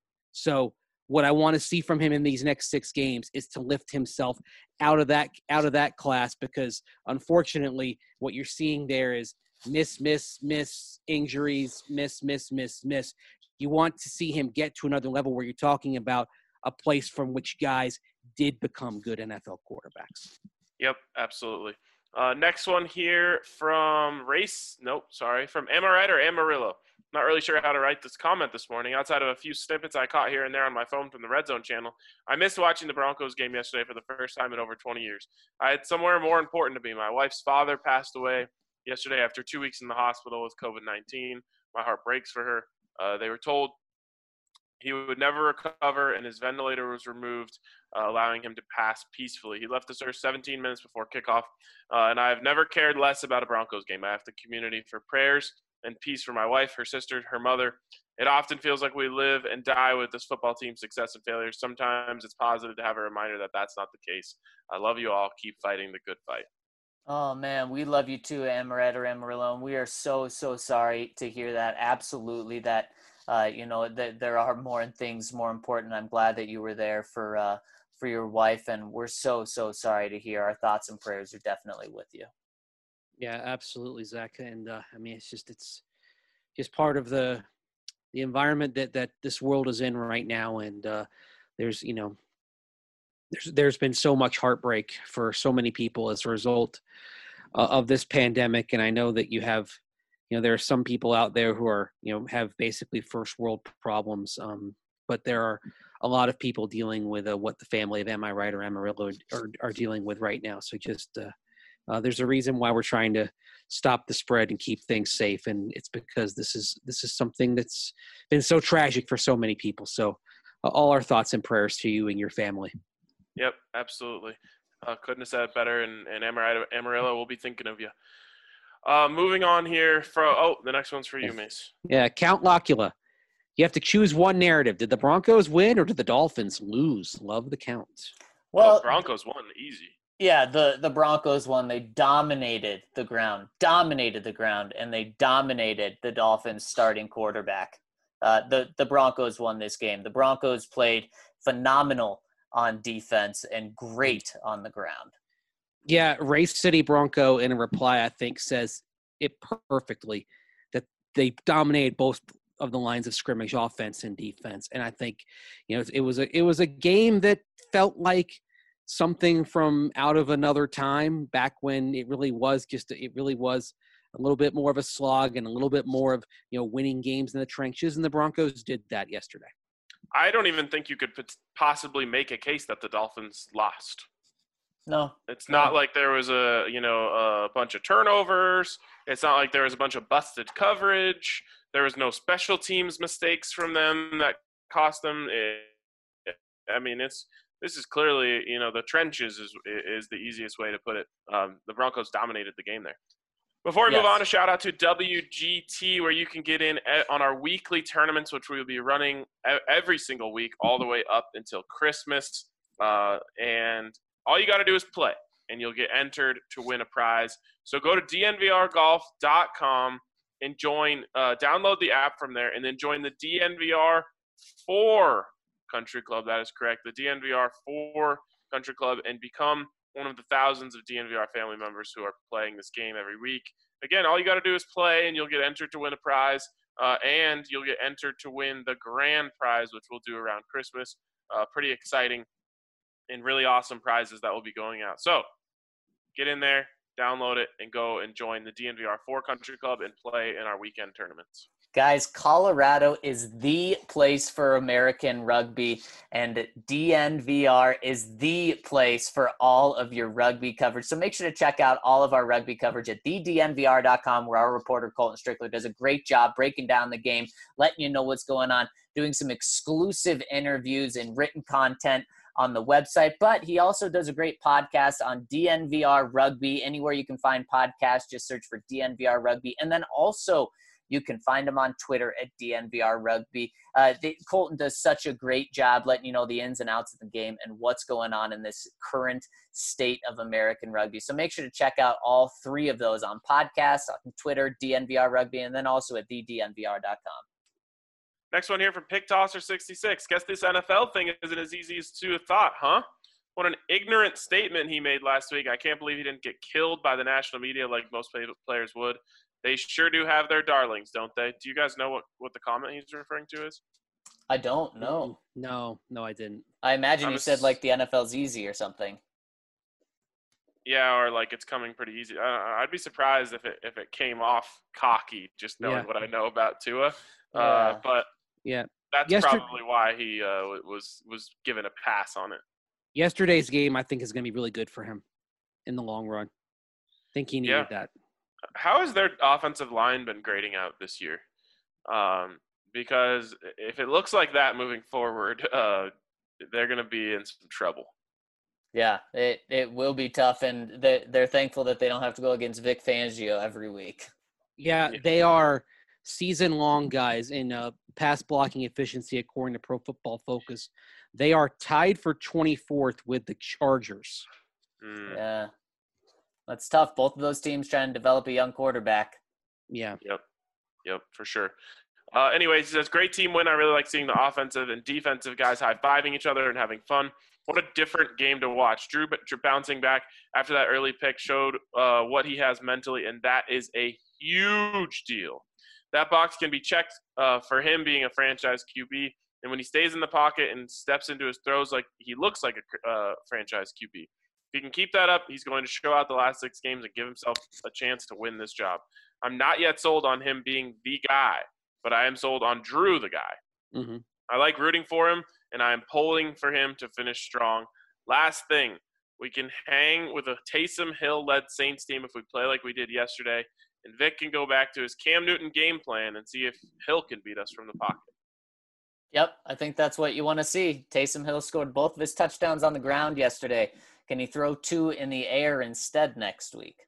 So what I want to see from him in these next six games is to lift himself out of that out of that class, because unfortunately what you're seeing there is miss, miss, miss, injuries, miss, miss, miss, miss. You want to see him get to another level where you're talking about a place from which guys did become good N F L quarterbacks. Yep, absolutely. Uh, next one here from Race. Nope, sorry. From Amaret or Amarillo. Not really sure how to write this comment this morning. Outside of a few snippets I caught here and there on my phone from the Red Zone channel, I missed watching the Broncos game yesterday for the first time in over twenty years. I had somewhere more important to be. My wife's father passed away yesterday after two weeks in the hospital with COVID nineteen. My heart breaks for her. Uh, they were told he would never recover, and his ventilator was removed, uh, allowing him to pass peacefully. He left the earth seventeen minutes before kickoff, uh, and I have never cared less about a Broncos game. I have the community for prayers and peace for my wife, her sister, her mother. It often feels like we live and die with this football team's success and failures. Sometimes it's positive to have a reminder that that's not the case. I love you all. Keep fighting the good fight. Oh, man, we love you too, Amaret or Amarillo, and we are so, so sorry to hear that. Absolutely, that, uh, you know, that there are more things more important. I'm glad that you were there for uh, for your wife, and we're so, so sorry to hear. Our thoughts and prayers are definitely with you. Yeah, absolutely, Zach. And, uh, I mean, it's just it's just part of the – the environment that, that this world is in right now. And uh, there's, you know, there's, there's been so much heartbreak for so many people as a result uh, of this pandemic. And I know that you have, you know, there are some people out there who are, you know, have basically first world problems. Um, but there are a lot of people dealing with uh, what the family of Am I Right or Amarillo are, are dealing with right now. So just, uh, Uh, there's a reason why we're trying to stop the spread and keep things safe, and it's because this is this is something that's been so tragic for so many people. So, uh, all our thoughts and prayers to you and your family. Yep, absolutely. Uh, couldn't have said it better, and, and Amarillo, Amarillo will be thinking of you. Uh, moving on here. For oh, the next one's for you, Mace. Yeah, Count Locula. You have to choose one narrative. Did the Broncos win or did the Dolphins lose? Love the count. Well, oh, Broncos won easy. Yeah, the, the Broncos won. They dominated the ground, dominated the ground, and they dominated the Dolphins starting quarterback. Uh, the, the Broncos won this game. The Broncos played phenomenal on defense and great on the ground. Yeah, Race City Bronco in a reply, I think, says it perfectly, that they dominated both of the lines of scrimmage, offense and defense. And I think, you know, it was a it was a game that felt like something from out of another time, back when it really was just it really was a little bit more of a slog and a little bit more of, you know, winning games in the trenches, and the Broncos did that yesterday. I don't even think you could possibly make a case that the Dolphins lost. No. It's not no. like there was a, you know, a bunch of turnovers. It's not like there was a bunch of busted coverage. There was no special teams mistakes from them that cost them. It, I mean, it's This is clearly, you know, the trenches is is the easiest way to put it. Um, the Broncos dominated the game there. Before we yes. move on, a shout out to W G T, where you can get in on our weekly tournaments, which we will be running every single week all the way up until Christmas. Uh, and all you got to do is play, and you'll get entered to win a prize. So go to D N V R golf dot com and join, uh, download the app from there, and then join the D N V R four Country Club. That is correct. The D N V R four Country Club, and become one of the thousands of D N V R family members who are playing this game every week. Again, all you got to do is play, and you'll get entered to win a prize, uh, and you'll get entered to win the grand prize, which we'll do around Christmas. Uh, pretty exciting and really awesome prizes that will be going out. So get in there, download it, and go and join the D N V R four Country Club and play in our weekend tournaments. Guys, Colorado is the place for American rugby, and D N V R is the place for all of your rugby coverage. So make sure to check out all of our rugby coverage at the D N V R dot com, where our reporter Colton Strickler does a great job breaking down the game, letting you know what's going on, doing some exclusive interviews and written content on the website. But he also does a great podcast on D N V R Rugby. Anywhere you can find podcasts, just search for D N V R Rugby. And then also, you can find him on Twitter at D N V R Rugby. Uh, they, Colton does such a great job letting you know the ins and outs of the game and what's going on in this current state of American rugby. So make sure to check out all three of those on podcasts, on Twitter, D N V R Rugby, and then also at the D N V R dot com. Next one here from Pick Tosser sixty-six. Guess this N F L thing isn't as easy as to have thought, huh? What an ignorant statement he made last week. I can't believe he didn't get killed by the national media like most players would. They sure do have their darlings, don't they? Do you guys know what, what the comment he's referring to is? I don't know. No, no, I didn't. I imagine I'm he a, said like the N F L's easy or something. Yeah, or like it's coming pretty easy. Uh, I'd be surprised if it if it came off cocky, just knowing Yeah. what I know about Tua. Yeah. Uh, but Yeah. that's Yester- probably why he uh, was was given a pass on it. Yesterday's game, I think, is going to be really good for him in the long run. I think he needed Yeah. that. How has their offensive line been grading out this year? Um, because if it looks like that moving forward, uh, they're going to be in some trouble. Yeah, it, it will be tough, and they, they're thankful that they don't have to go against Vic Fangio every week. Yeah, Yeah. they are season-long guys in uh, pass blocking efficiency, according to Pro Football Focus. They are tied for twenty-fourth with the Chargers. Mm. Yeah, that's tough. Both of those teams trying to develop a young quarterback. Yeah. Yep. Yep, for sure. Uh, anyways, it's a great team win. I really like seeing the offensive and defensive guys high-fiving each other and having fun. What a different game to watch. Drew bouncing back after that early pick showed uh, what he has mentally, and that is a huge deal. That box can be checked uh, for him being a franchise Q B, and when he stays in the pocket and steps into his throws like he looks like a uh, franchise Q B. If he can keep that up, he's going to show out the last six games and give himself a chance to win this job. I'm not yet sold on him being the guy, but I am sold on Drew the guy. Mm-hmm. I like rooting for him, and I am pulling for him to finish strong. Last thing, we can hang with a Taysom Hill-led Saints team if we play like we did yesterday, and Vic can go back to his Cam Newton game plan and see if Hill can beat us from the pocket. Yep, I think that's what you want to see. Taysom Hill scored both of his touchdowns on the ground yesterday. Can he throw two in the air instead next week?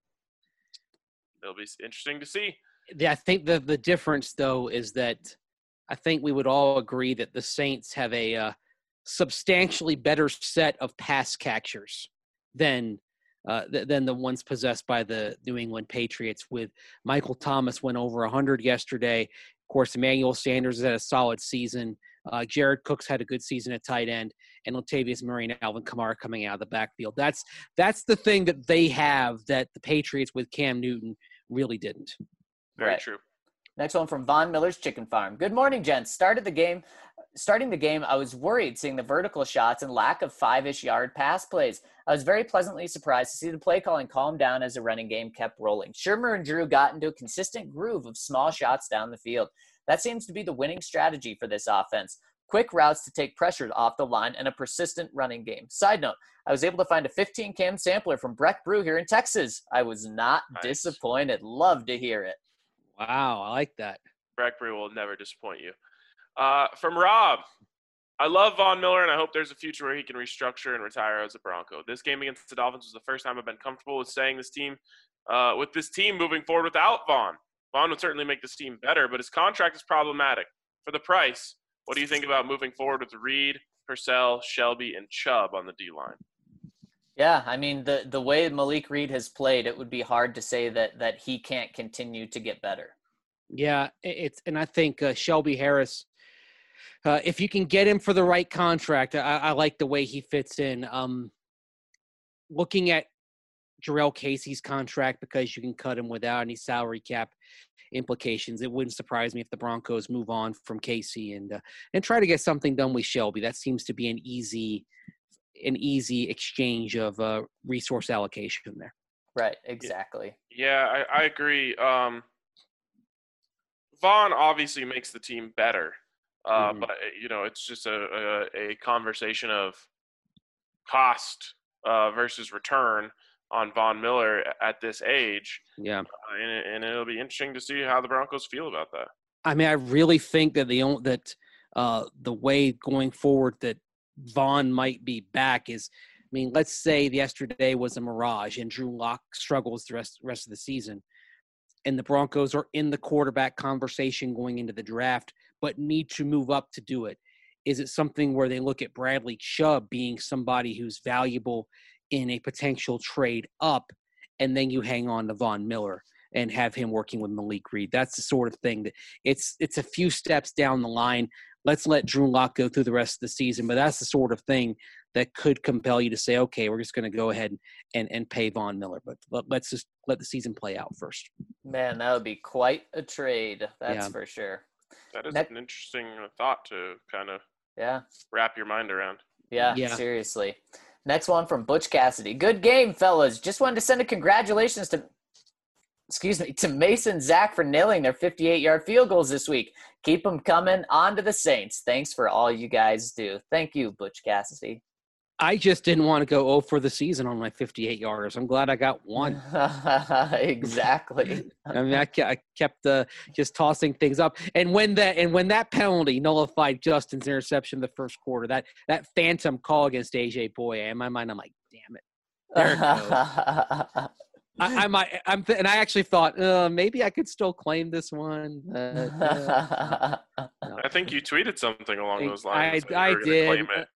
It'll be interesting to see. Yeah, I think the the difference, though, is that I think we would all agree that the Saints have a uh, substantially better set of pass catchers than uh, th- than the ones possessed by the New England Patriots. With Michael Thomas went over one hundred yesterday. Of course, Emmanuel Sanders has had a solid season. Uh, Jared Cook's had a good season at tight end, and Latavius Murray and Alvin Kamara coming out of the backfield. That's that's the thing that they have that the Patriots with Cam Newton really didn't. Very Right. true. Next one from Von Miller's Chicken Farm. Good morning, gents. Started the game. Starting the game, I was worried seeing the vertical shots and lack of five-ish yard pass plays. I was very pleasantly surprised to see the play calling calm down as the running game kept rolling. Shermer and Drew got into a consistent groove of small shots down the field. That seems to be the winning strategy for this offense. Quick routes to take pressure off the line and a persistent running game. Side note, I was able to find a fifteen cam sampler from Breck Brew here in Texas. I was not Nice. disappointed. Love to hear it. Wow, I like that. Breck Brew will never disappoint you. Uh, from Rob, I love Von Miller, and I hope there's a future where he can restructure and retire as a Bronco. This game against the Dolphins was the first time I've been comfortable with staying this team, uh, with this team moving forward without Von. Von would certainly make this team better, but his contract is problematic. For the price, what do you think about moving forward with Reed, Purcell, Shelby, and Chubb on the D-line? Yeah, I mean, the, the way Malik Reed has played, it would be hard to say that that he can't continue to get better. Yeah, it's and I think uh, Shelby Harris, uh, if you can get him for the right contract, I, I like the way he fits in. Um, looking at Jarrell Casey's contract, because you can cut him without any salary cap implications, it wouldn't surprise me if the Broncos move on from Casey and uh, and try to get something done with Shelby. That seems to be an easy an easy exchange of uh, resource allocation there. Right, exactly. Yeah, I, I agree. Um, Von obviously makes the team better, uh, Mhm. but you know it's just a, a, a conversation of cost uh, versus return on Von Miller at this age, Yeah. uh, and, and it'll be interesting to see how the Broncos feel about that. I mean, I really think that the only, that uh, the way going forward that Vaughn might be back is, I mean, let's say yesterday was a mirage and Drew Lock struggles the rest rest of the season, and the Broncos are in the quarterback conversation going into the draft, but need to move up to do it. Is it something where they look at Bradley Chubb being somebody who's valuable in a potential trade up, and then you hang on to Von Miller and have him working with Malik Reed? That's the sort of thing that it's it's a few steps down the line. Let's let Drew Lock go through the rest of the season, but that's the sort of thing that could compel you to say, okay, we're just going to go ahead and, and pay Von Miller, but let, let's just let the season play out first. Man, that would be quite a trade. That's Yeah. for sure. That is Next- an interesting thought to kind of Yeah. wrap your mind around. Yeah, Yeah. seriously. Next one from Butch Cassidy. Good game, fellas. Just wanted to send a congratulations to, excuse me, to Mason Zach for nailing their fifty-eight-yard field goals this week. Keep them coming. On to the Saints. Thanks for all you guys do. Thank you, Butch Cassidy. I just didn't want to go oh for the season on my fifty-eight yarders. I'm glad I got one. Exactly. I mean, I, I kept uh, just tossing things up, and when that and when that penalty nullified Justin's interception in the first quarter, that that phantom call against A J Boye, in my mind, I'm like, damn it, there it goes. I, I might, I'm, th- and I actually thought uh, maybe I could still claim this one. But, uh, no. I think you tweeted something along those lines. I, I did. Claim it.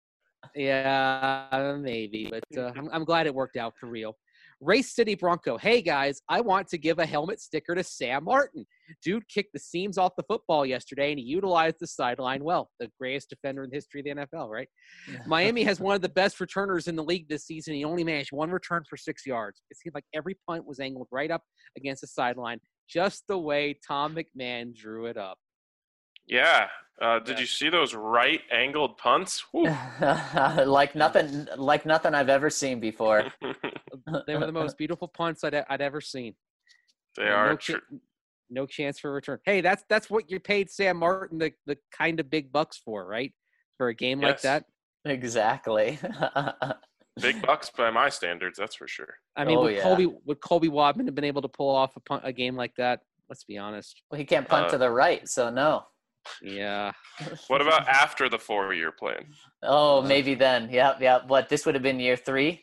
Yeah, maybe, but uh, I'm, I'm glad it worked out for real. Race City Bronco. Hey, guys, I want to give a helmet sticker to Sam Martin. Dude kicked the seams off the football yesterday, and he utilized the sideline well. The greatest defender in the history of the N F L, right? Yeah. Miami has one of the best returners in the league this season. He only managed one return for six yards. It seemed like every punt was angled right up against the sideline, just the way Tom McMahon drew it up. Yeah. Uh, did yeah. you see those right angled punts? like nothing, like nothing I've ever seen before. They were the most beautiful punts I'd, I'd ever seen. They and are no, true. Ch- no chance for return. Hey, that's that's what you paid Sam Martin the, the kind of big bucks for, right? For a game yes. like that. Exactly. Big bucks by my standards, that's for sure. I mean, oh, would yeah. Colby would Colby Wadman have been able to pull off a punt, a game like that? Let's be honest. Well, he can't punt uh, to the right, so no. Yeah. What about after the four-year plan? Oh, maybe then. Yeah, yeah. What, this would have been year three?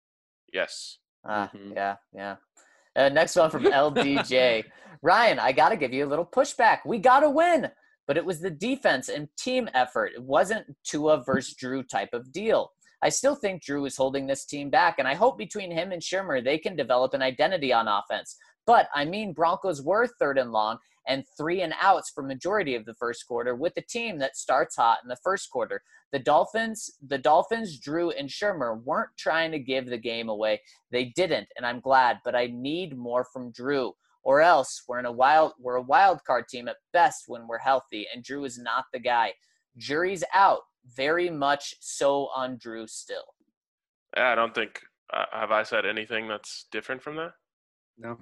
Yes. Ah, mm-hmm. yeah, yeah. Uh, next one from L D J. Ryan, I got to give you a little pushback. We got to win, but it was the defense and team effort. It wasn't Tua versus Drew type of deal. I still think Drew is holding this team back, and I hope between him and Shurmur, they can develop an identity on offense. But, I mean, Broncos were third and long and three and outs for majority of the first quarter with a team that starts hot in the first quarter. The Dolphins, the Dolphins, Drew, and Shurmur weren't trying to give the game away. They didn't, and I'm glad, but I need more from Drew. Or else we're in a wild we're a wild card team at best when we're healthy, and Drew is not the guy. Jury's out. Very much so on Drew still. Yeah, I don't think uh, have I said anything that's different from that? No.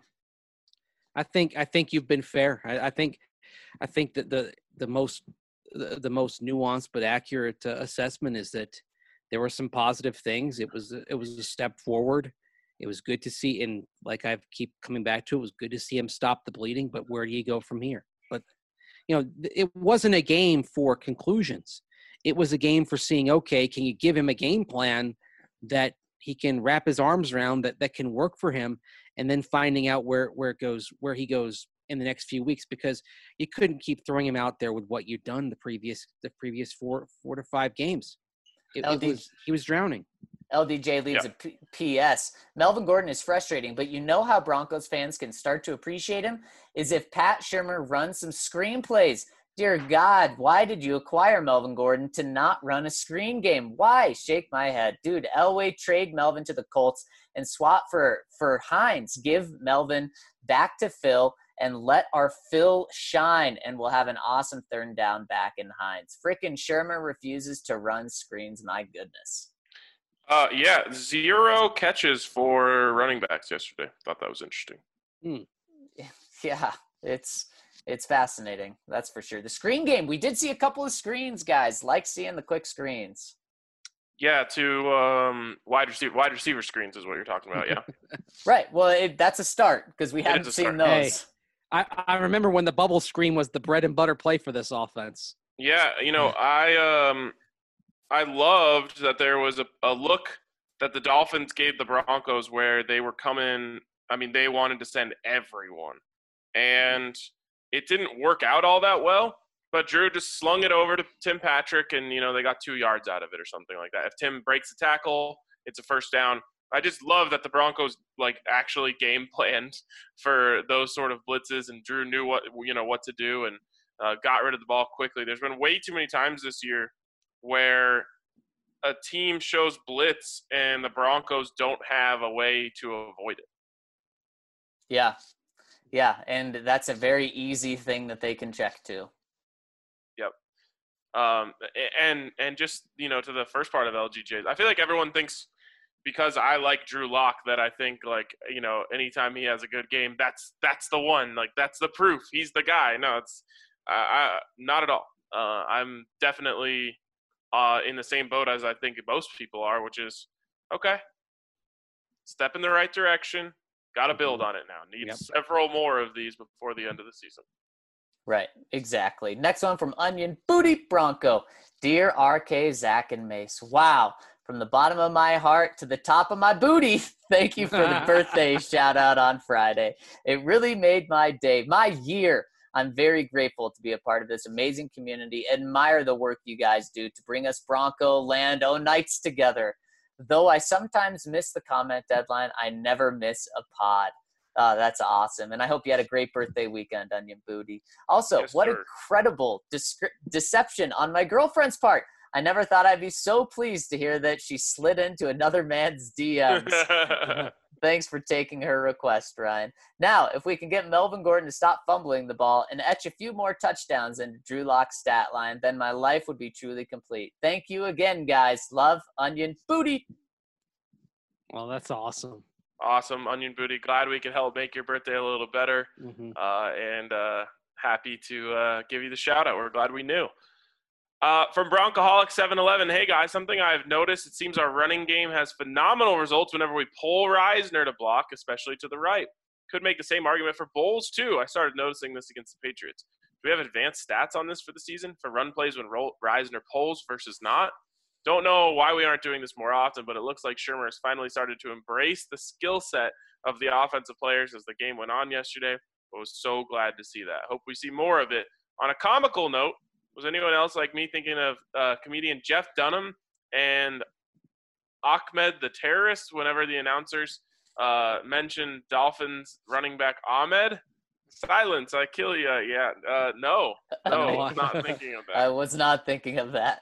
I think I think you've been fair. I, I think I think that the the most the, the most nuanced but accurate uh, assessment is that there were some positive things. It was it was a step forward. It was good to see, and like I keep coming back to, it was good to see him stop the bleeding. But where do you go from here? But you know, it wasn't a game for conclusions. It was a game for seeing, okay, can you give him a game plan that he can wrap his arms around, that that can work for him, and then finding out where where it goes, where he goes in the next few weeks, because you couldn't keep throwing him out there with what you'd done the previous the previous four four to five games. It, L D, it was he was drowning. L D J leaves yeah. a P- P.S. Melvin Gordon is frustrating, but you know how Broncos fans can start to appreciate him is if Pat Shurmur runs some screenplays. Dear God, why did you acquire Melvin Gordon to not run a screen game? Why? Shake my head. Dude, Elway, trade Melvin to the Colts and swap for, for Hines. Give Melvin back to Phil and let our Phil shine, and we'll have an awesome third down back in Hines. Frickin' Shurmur refuses to run screens. My goodness. Uh, yeah, zero catches for running backs yesterday. Thought that was interesting. Hmm. Yeah, it's... It's fascinating, that's for sure. The screen game, we did see a couple of screens, guys. Like seeing the quick screens. Yeah, to um, wide receiver, wide receiver screens is what you're talking about. Yeah. Right. Well, it, that's a start because we hadn't seen those. Hey, I, I remember when the bubble screen was the bread and butter play for this offense. Yeah, you know, I um, I loved that there was a, a look that the Dolphins gave the Broncos where they were coming. I mean, they wanted to send everyone, and it didn't work out all that well, but Drew just slung it over to Tim Patrick, and, you know, they got two yards out of it or something like that. If Tim breaks a tackle, it's a first down. I just love that the Broncos, like, actually game planned for those sort of blitzes, and Drew knew what, you know, what to do and uh, got rid of the ball quickly. There's been way too many times this year where a team shows blitz and the Broncos don't have a way to avoid it. Yeah. Yeah, and that's a very easy thing that they can check to. Yep. Um, and and just, you know, to the first part of L G J's, I feel like everyone thinks because I like Drew Lock that I think, like, you know, anytime he has a good game, that's that's the one. Like, that's the proof. He's the guy. No, it's uh, I, not at all. Uh, I'm definitely uh, in the same boat as I think most people are, which is, okay, step in the right direction. Got to build on it now. Need Yep. several more of these before the end of the season. Right, exactly. Next one from Onion Booty Bronco. Dear R K, Zach, and Mace. Wow. From the bottom of my heart to the top of my booty, thank you for the birthday shout out on Friday. It really made my day, my year. I'm very grateful to be a part of this amazing community. Admire the work you guys do to bring us Bronco Land O nights together. Though I sometimes miss the comment deadline, I never miss a pod. Uh, that's awesome. And I hope you had a great birthday weekend, Onion Booty. Also, Yes, what sir. incredible descri- deception on my girlfriend's part. I never thought I'd be so pleased to hear that she slid into another man's D Ms. Thanks for taking her request, Ryan. Now, if we can get Melvin Gordon to stop fumbling the ball and etch a few more touchdowns into Drew Lock's stat line, then my life would be truly complete. Thank you again, guys. Love, Onion Booty. Well, that's awesome. Awesome, Onion Booty. Glad we could help make your birthday a little better. Mm-hmm. Uh, and uh, happy to uh, give you the shout out. We're glad we knew. Uh, from Broncoholic seven eleven, hey guys, something I've noticed, it seems our running game has phenomenal results whenever we pull Reisner to block, especially to the right. Could make the same argument for Bowles too. I started noticing this against the Patriots. Do we have advanced stats on this for the season for run plays when Ro- Reisner pulls versus not? Don't know why we aren't doing this more often, but it looks like Shurmur has finally started to embrace the skill set of the offensive players as the game went on yesterday. I was so glad to see that. Hope we see more of it. On a comical note, was anyone else like me thinking of uh, comedian Jeff Dunham and Ahmed the terrorist whenever the announcers uh, mentioned Dolphins running back Ahmed? Silence, I kill you. Yeah, uh, no, no, I was not thinking of that. I was not thinking of that.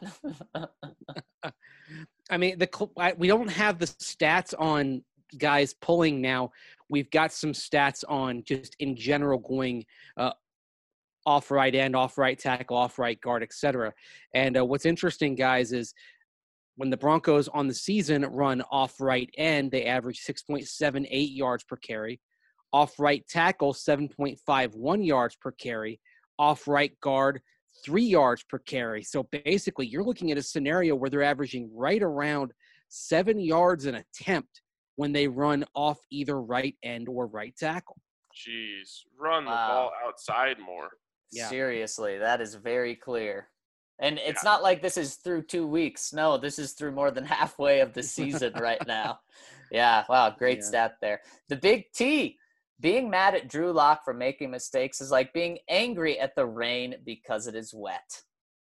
I mean, the I, we don't have the stats on guys pulling now. We've got some stats on just in general going uh, off right end, off right tackle, off right guard, et cetera. And uh, what's interesting, guys, is when the Broncos on the season run off right end, they average six point seven eight yards per carry. Off right tackle, seven point five one yards per carry. Off right guard, three yards per carry. So basically, you're looking at a scenario where they're averaging right around seven yards an attempt when they run off either right end or right tackle. Jeez, run the Wow. ball outside more. Yeah. Seriously, that is very clear. And it's Yeah. not like this is through two weeks. No, this is through more than halfway of the season right now. Yeah, wow, great Yeah. stat there. The Big T. Being mad at Drew Lock for making mistakes is like being angry at the rain because it is wet.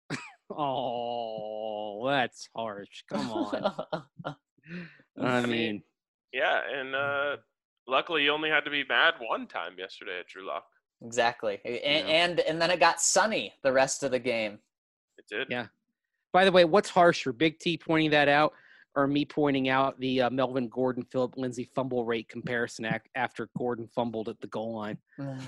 Oh, that's harsh. Come on. I I mean, mean, Yeah, and uh, luckily you only had to be mad one time yesterday at Drew Lock. Exactly. And, Yeah. and and then it got sunny the rest of the game. It did. Yeah. by the way, what's harsher, Big T pointing that out or me pointing out the uh, Melvin Gordon, Philip Lindsay fumble rate comparison ac- after Gordon fumbled at the goal line?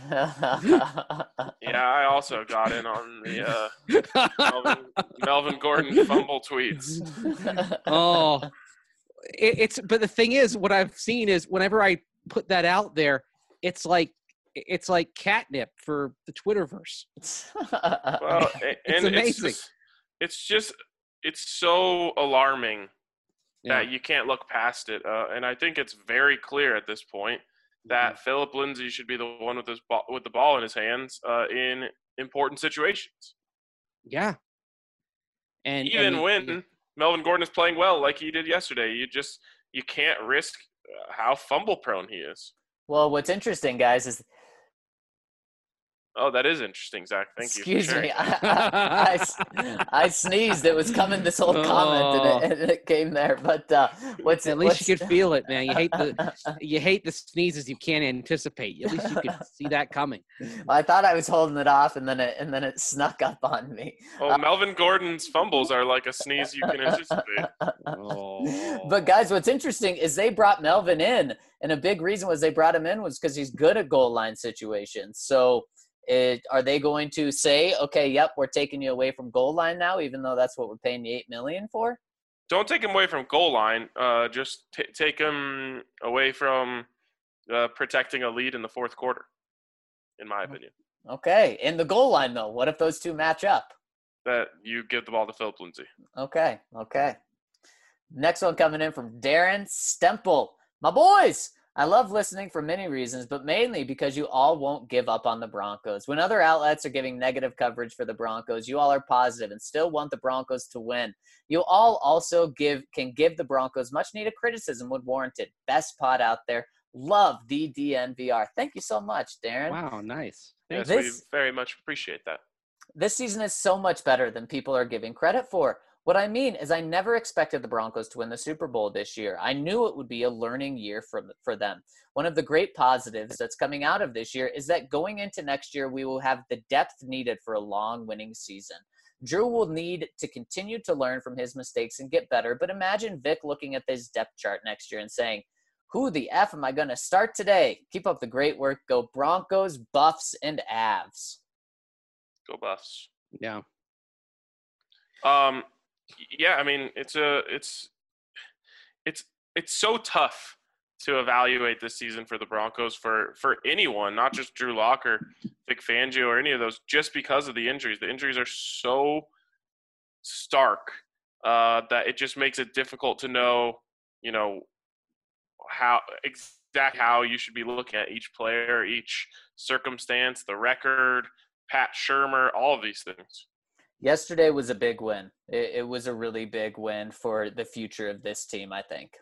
Yeah, I also got in on the uh, Melvin, Melvin Gordon fumble tweets. Oh, it, it's but the thing is, what I've seen is whenever I put that out there, it's like it's like catnip for the Twitterverse. Well, a- It's and amazing. It's just, it's just it's so alarming Yeah. that you can't look past it. Uh, and I think it's very clear at this point that Philip Lindsay should be the one with his ball, with the ball in his hands uh, in important situations. Yeah. And Even and, when Melvin Gordon is playing well, like he did yesterday, you just you can't risk uh, how fumble prone he is. Well, what's interesting, guys, is Oh, that is interesting, Zach. Thank you. for excuse sharing me, that. I, I, I sneezed. It was coming this whole comment, and it, and it came there. But uh, what's at least what's, you could feel it, man. You hate the you hate the sneezes you can't anticipate. At least you could see that coming. I thought I was holding it off, and then it and then it snuck up on me. Well, Melvin Gordon's fumbles are like a sneeze you can anticipate. Oh. But guys, what's interesting is they brought Melvin in, and a big reason was they brought him in was because he's good at goal line situations. So, it, are they going to say, okay, yep, we're taking you away from goal line now, even though that's what we're paying you eight million for? Don't take him away from goal line. Uh, just t- take him away from uh, protecting a lead in the fourth quarter, in my opinion. Okay, in the goal line though, what if those two match up? that you give the ball to Philip Lindsay. Okay, okay. Next one coming in from Darren Stemple. My boys, I love listening for many reasons, but mainly because you all won't give up on the Broncos. When other outlets are giving negative coverage for the Broncos, you all are positive and still want the Broncos to win. You all also give can give the Broncos much needed criticism when warranted. Best pod out there. Love the D N V R. Thank you so much, Darren. Wow, nice. Yes, This- we very much appreciate that. This season is so much better than people are giving credit for. What I mean is I never expected the Broncos to win the Super Bowl this year. I knew it would be a learning year for, for them. One of the great positives that's coming out of this year is that going into next year, we will have the depth needed for a long winning season. Drew will need to continue to learn from his mistakes and get better, but imagine Vic looking at this depth chart next year and saying, who the F am I going to start today? Keep up the great work. Go Broncos, Buffs, and Avs. Go Buffs. Yeah. Um, yeah, I mean, it's a, it's, it's, it's so tough to evaluate this season for the Broncos for, for anyone, not just Drew Lock or Vic Fangio or any of those, just because of the injuries. The injuries are so stark uh, that it just makes it difficult to know, you know, how exact how you should be looking at each player, each circumstance, the record, Pat Shurmur, all of these things. Yesterday was a big win. It, it was a really big win for the future of this team, I think.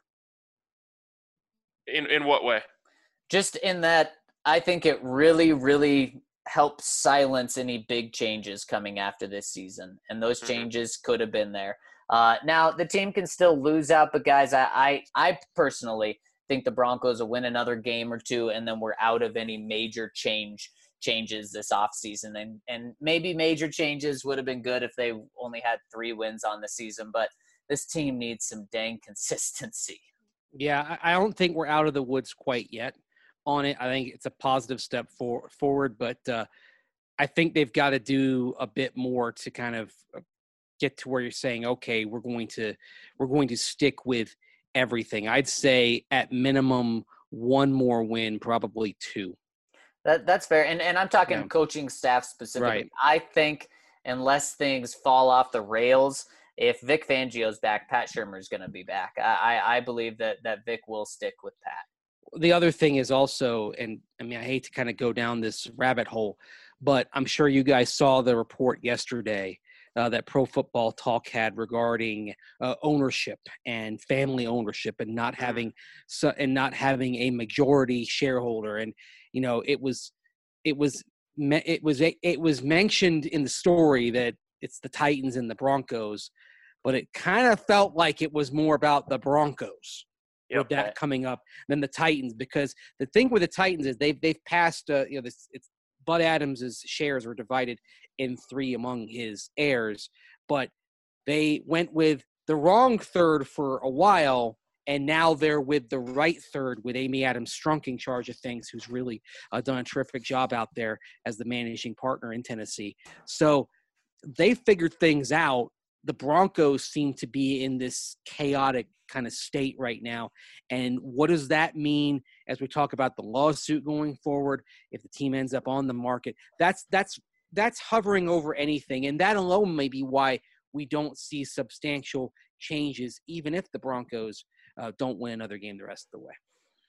In in what way? Just in that I think it really, really helps silence any big changes coming after this season. And those Mhm. changes could have been there. Uh, now, the team can still lose out, but guys, I, I, I personally think the Broncos will win another game or two, and then we're out of any major change changes this offseason. And, and maybe major changes would have been good if they only had three wins on the season, but this team needs some dang consistency. Yeah, I I don't think we're out of the woods quite yet on it. I think it's a positive step for, forward, but uh, I think they've got to do a bit more to kind of get to where you're saying, okay, we're going to we're going to stick with everything. I'd say at minimum one more win, probably two. That that's fair. And and I'm talking Yeah. coaching staff specifically. Right. I think unless things fall off the rails, if Vic Fangio's back, Pat Shurmur is going to be back. I, I I believe that that Vic will stick with Pat. The other thing is also, and I mean, I hate to kind of go down this rabbit hole, but I'm sure you guys saw the report yesterday uh, that Pro Football Talk had regarding uh, ownership and family ownership and not having so, and not having a majority shareholder. And you know, it was it was it was it was mentioned in the story that it's the Titans and the Broncos, but it kind of felt like it was more about the Broncos. Yep. With that coming up than the Titans, because the thing with the Titans is they've they've passed uh, you know this it's Bud Adams's shares were divided in three among his heirs, but they went with the wrong third for a while, and now they're with the right third with Amy Adams Strunk in charge of things, who's really uh, done a terrific job out there as the managing partner in Tennessee. So they figured things out. The Broncos seem to be in this chaotic kind of state right now. And what does that mean as we talk about the lawsuit going forward? If the team ends up on the market, that's, that's, that's hovering over anything. And that alone may be why we don't see substantial changes, even if the Broncos uh, don't win another game the rest of the way.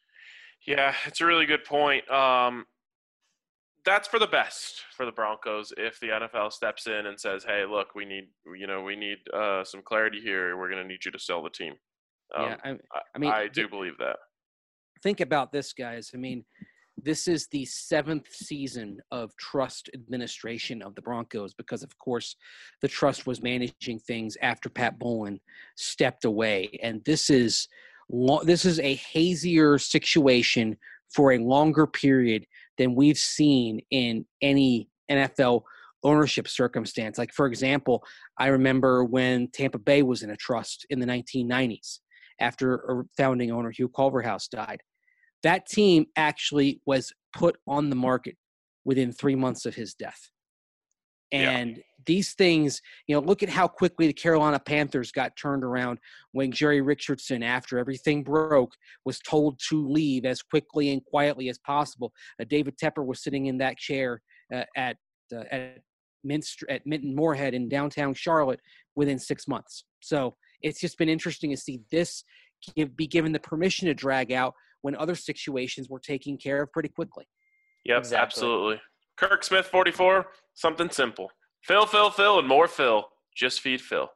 Yeah, it's a really good point. Um, that's for the best for the Broncos if the N F L steps in and says, "Hey, look, we need, you know, we need uh, some clarity here. We're going to need you to sell the team." Um, yeah, I, I, I mean, I do believe that. Think about this, guys. I mean, this is the seventh season of trust administration of the Broncos because, of course, the trust was managing things after Pat Bowlen stepped away. And this is lo- this is a hazier situation for a longer period than we've seen in any N F L ownership circumstance. Like, for example, I remember when Tampa Bay was in a trust in the nineteen nineties after a founding owner, Hugh Culverhouse, died. That team actually was put on the market within three months of his death. And yeah. These things, you know, look at how quickly the Carolina Panthers got turned around when Jerry Richardson, after everything broke, was told to leave as quickly and quietly as possible. Uh, David Tepper was sitting in that chair uh, at, uh, at Mint, at Minton Moorhead in downtown Charlotte within six months. So it's just been interesting to see this give, be given the permission to drag out when other situations were taken care of pretty quickly. Yep, exactly. Absolutely. Kirk Smith, forty-four, something simple. Phil, Phil, Phil, and more Phil. Just feed Phil.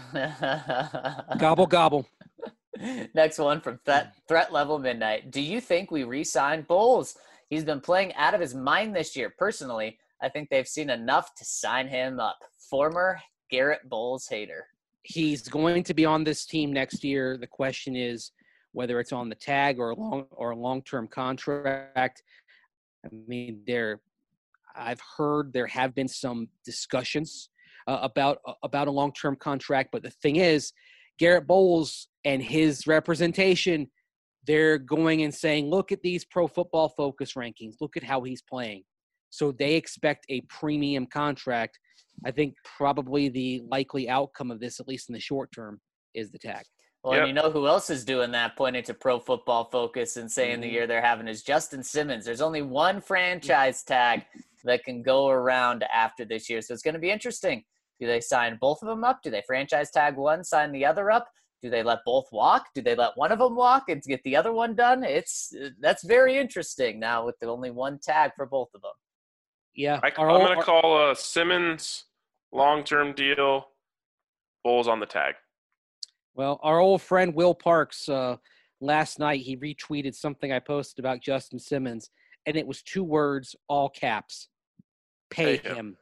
Gobble, gobble. Next one from Threat, Threat Level Midnight. Do you think we re-sign Bowles? He's been playing out of his mind this year. Personally, I think they've seen enough to sign him up. Former Garrett Bowles hater. He's going to be on this team next year. The question is whether it's on the tag or a long or a long-term contract. I mean, there, I've heard there have been some discussions uh, about uh, about a long-term contract, but the thing is, Garrett Bowles and his representation, they're going and saying, look at these Pro Football Focus rankings. Look at how he's playing. So they expect a premium contract. I think probably the likely outcome of this, at least in the short term, is the tag. Well, yep. And you know who else is doing that, pointing to Pro Football Focus and saying mm-hmm. the year they're having is Justin Simmons. There's only one franchise tag that can go around after this year. So it's going to be interesting. Do they sign both of them up? Do they franchise tag one, sign the other up? Do they let both walk? Do they let one of them walk and get the other one done? It's that's very interesting now with the only one tag for both of them. Yeah, I, I'm going to call uh, Simmons long-term deal, Bowles on the tag. Well, our old friend Will Parks, uh, last night he retweeted something I posted about Justin Simmons, and it was two words, all caps. Pay, Pay him.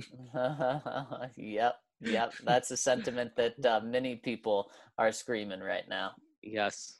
him. Yep, yep. That's a sentiment that uh, many people are screaming right now. Yes.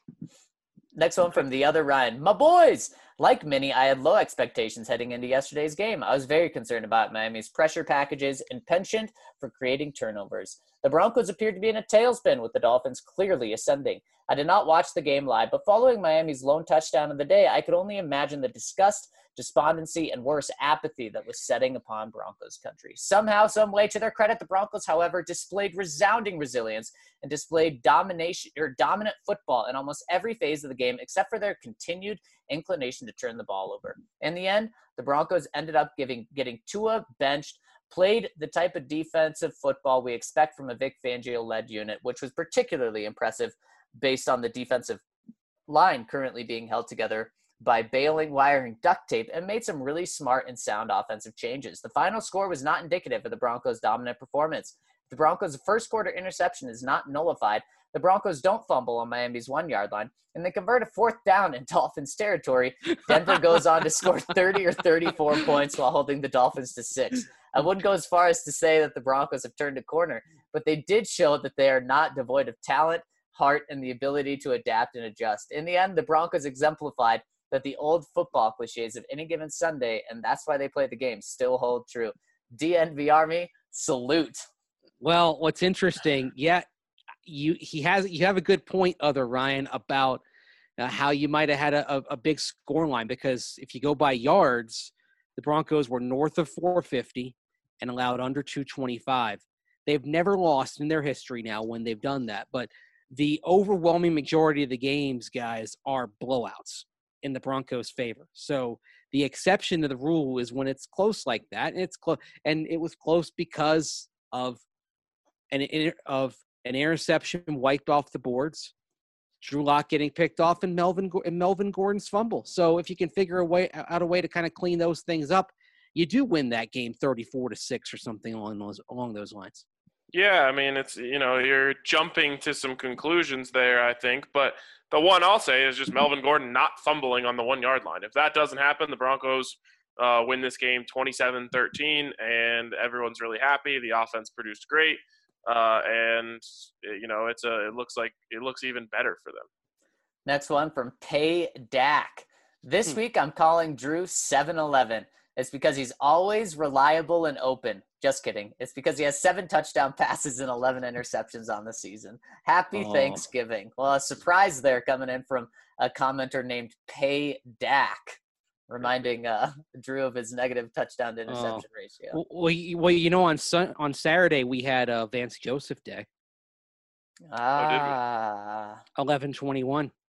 Next one from the other Ryan. My boys! Like many, I had low expectations heading into yesterday's game. I was very concerned about Miami's pressure packages and penchant for creating turnovers. The Broncos appeared to be in a tailspin with the Dolphins clearly ascending. I did not watch the game live, but following Miami's lone touchdown of the day, I could only imagine the disgust, despondency, and worse, apathy that was setting upon Broncos country. Somehow, some way, to their credit, the Broncos, however, displayed resounding resilience and displayed domination or dominant football in almost every phase of the game, except for their continued inclination to turn the ball over. In the end, the Broncos ended up giving getting Tua benched, played the type of defensive football we expect from a Vic Fangio-led unit, which was particularly impressive based on the defensive line currently being held together by bailing, wiring, duct tape, and made some really smart and sound offensive changes. The final score was not indicative of the Broncos' dominant performance. The Broncos' first quarter interception is not nullified. The Broncos don't fumble on Miami's one-yard line, and they convert a fourth down in Dolphins territory. Denver goes on to score thirty or thirty-four points while holding the Dolphins to six. I wouldn't go as far as to say that the Broncos have turned a corner, but they did show that they are not devoid of talent, heart, and the ability to adapt and adjust. In the end, the Broncos exemplified that the old football cliches of any given Sunday, and that's why they play the game, still hold true. D N V Army, salute. Well, what's interesting, yeah, you he has you have a good point, other Ryan, about uh, how you might have had a, a, a big score line, because if you go by yards, the Broncos were north of four fifty and allowed under two twenty-five. They've never lost in their history now when they've done that, but the overwhelming majority of the games, guys, are blowouts in the Broncos' favor. So the exception to the rule is when it's close like that, and it's close, and it was close because of an of an interception wiped off the boards, Drew Lock getting picked off, and Melvin and Melvin Gordon's fumble. So if you can figure a way out a way to kind of clean those things up, you do win that game thirty-four to six or something along those along those lines. Yeah, I mean, it's, you know, you're jumping to some conclusions there, I think, but the one I'll say is just Melvin Gordon not fumbling on the one-yard line. If that doesn't happen, the Broncos uh, win this game twenty-seven thirteen, and everyone's really happy. The offense produced great, uh, and, you know, it's a, it looks like it looks even better for them. Next one from Pay Dak. This hmm. week I'm calling Drew seven eleven. It's because he's always reliable and open. Just kidding. It's because he has seven touchdown passes and eleven interceptions on the season. Happy oh. Thanksgiving. Well, a surprise there coming in from a commenter named Pay Dak, reminding uh, Drew of his negative touchdown to interception oh. ratio. Well, you, well, you know, on sun, on Saturday we had uh, Vance Joseph Day. Ah. eleven twenty-one.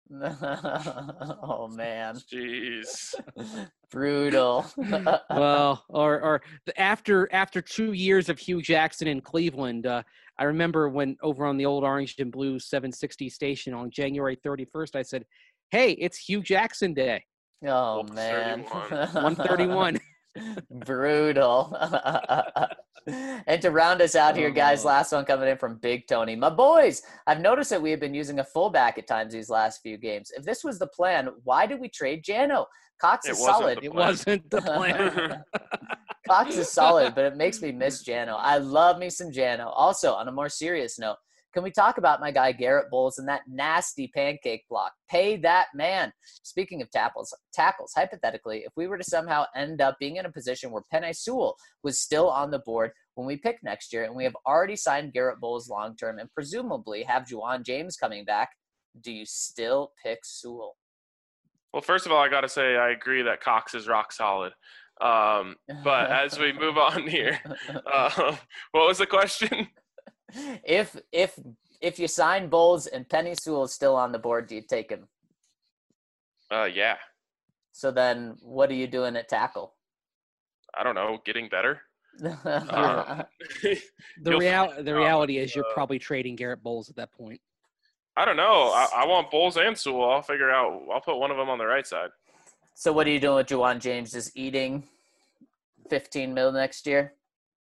Oh man, Jeez. brutal. Well, or or the, after after two years of Hugh Jackson in Cleveland, uh, I remember when over on the old Orange and Blue seven sixty station on January thirty-first, I said, "Hey, it's Hugh Jackson Day." Oh Wolf man, one thirty-one. brutal. And to round us out here, guys, Oh. last one coming in from Big Tony. My boys, I've noticed that we have been using a fullback at times these last few games. If this was the plan, why did we trade Jano? Cox It is wasn't solid. the It plan. wasn't the plan. Cox is solid, but it makes me miss Jano. I love me some Jano. Also, on a more serious note, can we talk about my guy Garrett Bowles and that nasty pancake block? Pay that man. Speaking of tackles, tackles, hypothetically, if we were to somehow end up being in a position where Penei Sewell was still on the board when we pick next year, and we have already signed Garrett Bowles long-term and presumably have Juwan James coming back, do you still pick Sewell? Well, first of all, I got to say I agree that Cox is rock solid. Um, but as we move on here, uh, what was the question? If if if you sign Bowles and Penei Sewell is still on the board, do you take him? Uh, yeah, So then, what are you doing at tackle? I don't know, getting better. Um, The You'll real find the out, reality is you're uh, probably trading Garrett Bowles at that point. I don't know. I, I want Bulls and Sewell. I'll figure out. I'll put one of them on the right side. So what are you doing with Juwan James? Just eating fifteen mil next year?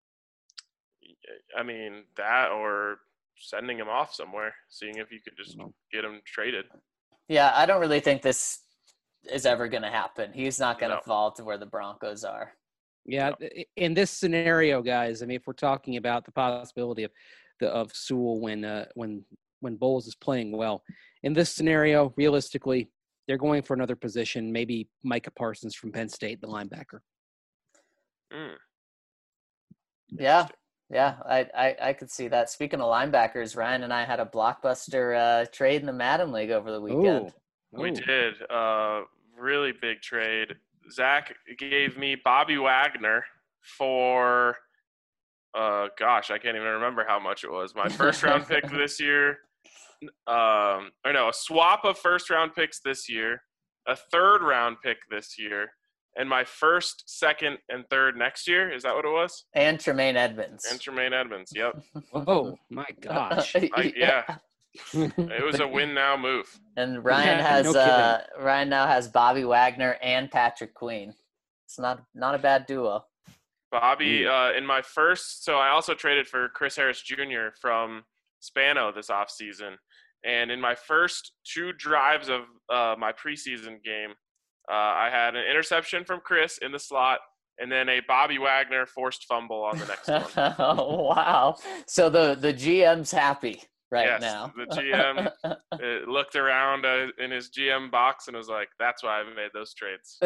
I mean that, or sending him off somewhere, seeing if you could just No. get him traded. Yeah, I don't really think this is ever going to happen. He's not going to No. fall to where the Broncos are. Yeah, i- in this scenario, guys, I mean, if we're talking about the possibility of the of Sewell when uh, when when Bowles is playing well, in this scenario, realistically, they're going for another position, maybe Micah Parsons from Penn State, the linebacker. Mm. Yeah, yeah, I, I I could see that. Speaking of linebackers, Ryan and I had a blockbuster uh, trade in the Madden League over the weekend. We Ooh. did uh, really big trade. Zach gave me Bobby Wagner for, uh, gosh, I can't even remember how much it was. My first round pick this year, um, or no, a swap of first round picks this year, a third round pick this year, and my first, second, and third next year. Is that what it was? And Tremaine Edmonds. And Tremaine Edmonds. Yep. Oh my gosh! I, yeah. It was a win now move. And Ryan Yeah, has no kidding. uh, Ryan now has Bobby Wagner and Patrick Queen. It's not not a bad duo. Bobby, Ooh. uh, in my first, so I also traded for Chris Harris Junior from Spano this offseason. And in my first two drives of uh, my preseason game, uh, I had an interception from Chris in the slot, and then a Bobby Wagner forced fumble on the next one. Oh wow! So the the G M's happy right Yes, now. the G M uh, looked around uh, in his G M box and was like, that's why I made those trades.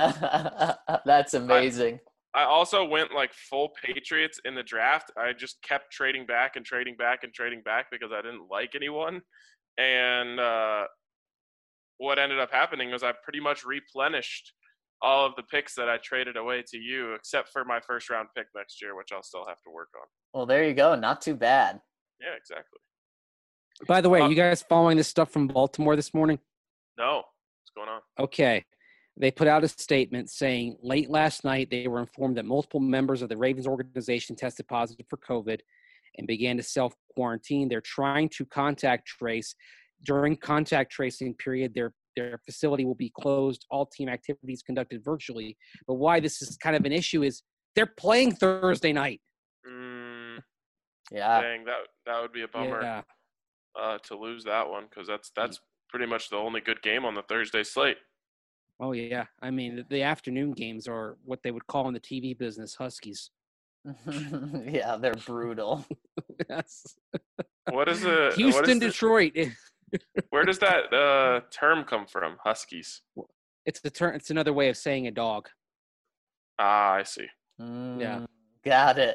That's amazing. I also went like full Patriots in the draft. I just kept trading back and trading back and trading back because I didn't like anyone. And uh, what ended up happening was I pretty much replenished all of the picks that I traded away to you, except for my first round pick next year, which I'll still have to work on. Well, there you go. Not too bad. Yeah, exactly. By the way, Uh, you guys following this stuff from Baltimore this morning? No, what's going on? Okay. They put out a statement saying late last night they were informed that multiple members of the Ravens organization tested positive for COVID and began to self-quarantine. They're trying to contact trace. During contact tracing period, their their facility will be closed. All team activities conducted virtually. But why this is kind of an issue is they're playing Thursday night. Mm, Yeah. dang, that that would be a bummer Yeah. uh, to lose that one because that's that's pretty much the only good game on the Thursday slate. Oh, yeah. I mean, the- the afternoon games are what they would call in the T V business Huskies. Yeah, they're brutal. Yes. What is a what Houston, is the- Detroit. Where does that uh, term come from? Huskies. It's the term. It's another way of saying a dog. Ah, I see. Mm, got it.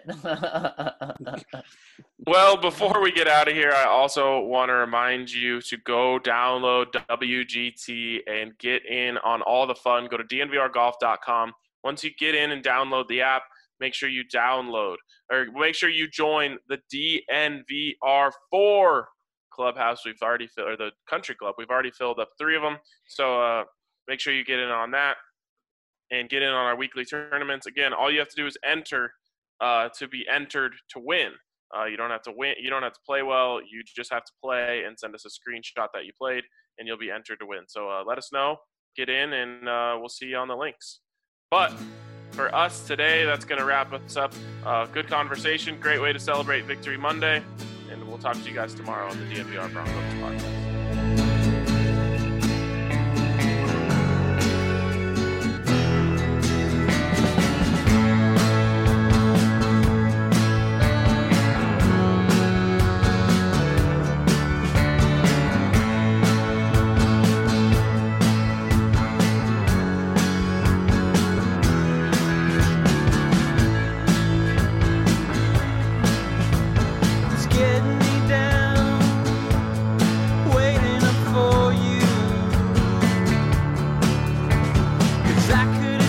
Well, before we get out of here, I also want to remind you to go download W G T and get in on all the fun. Go to D N V R golf dot com. Once you get in and download the app, make sure you download or make sure you join the D N V R four clubhouse. We've already filled, or the country club. We've already filled up three of them. So uh, make sure you get in on that and get in on our weekly tournaments. Again, all you have to do is enter uh, to be entered to win. Uh, you don't have to win. You don't have to play well. You just have to play and send us a screenshot that you played, and you'll be entered to win. So uh, let us know, get in, and uh, we'll see you on the links. But for us today, that's going to wrap us up. Uh, good conversation, great way to celebrate Victory Monday, and we'll talk to you guys tomorrow on the D N V R Broncos podcast. I could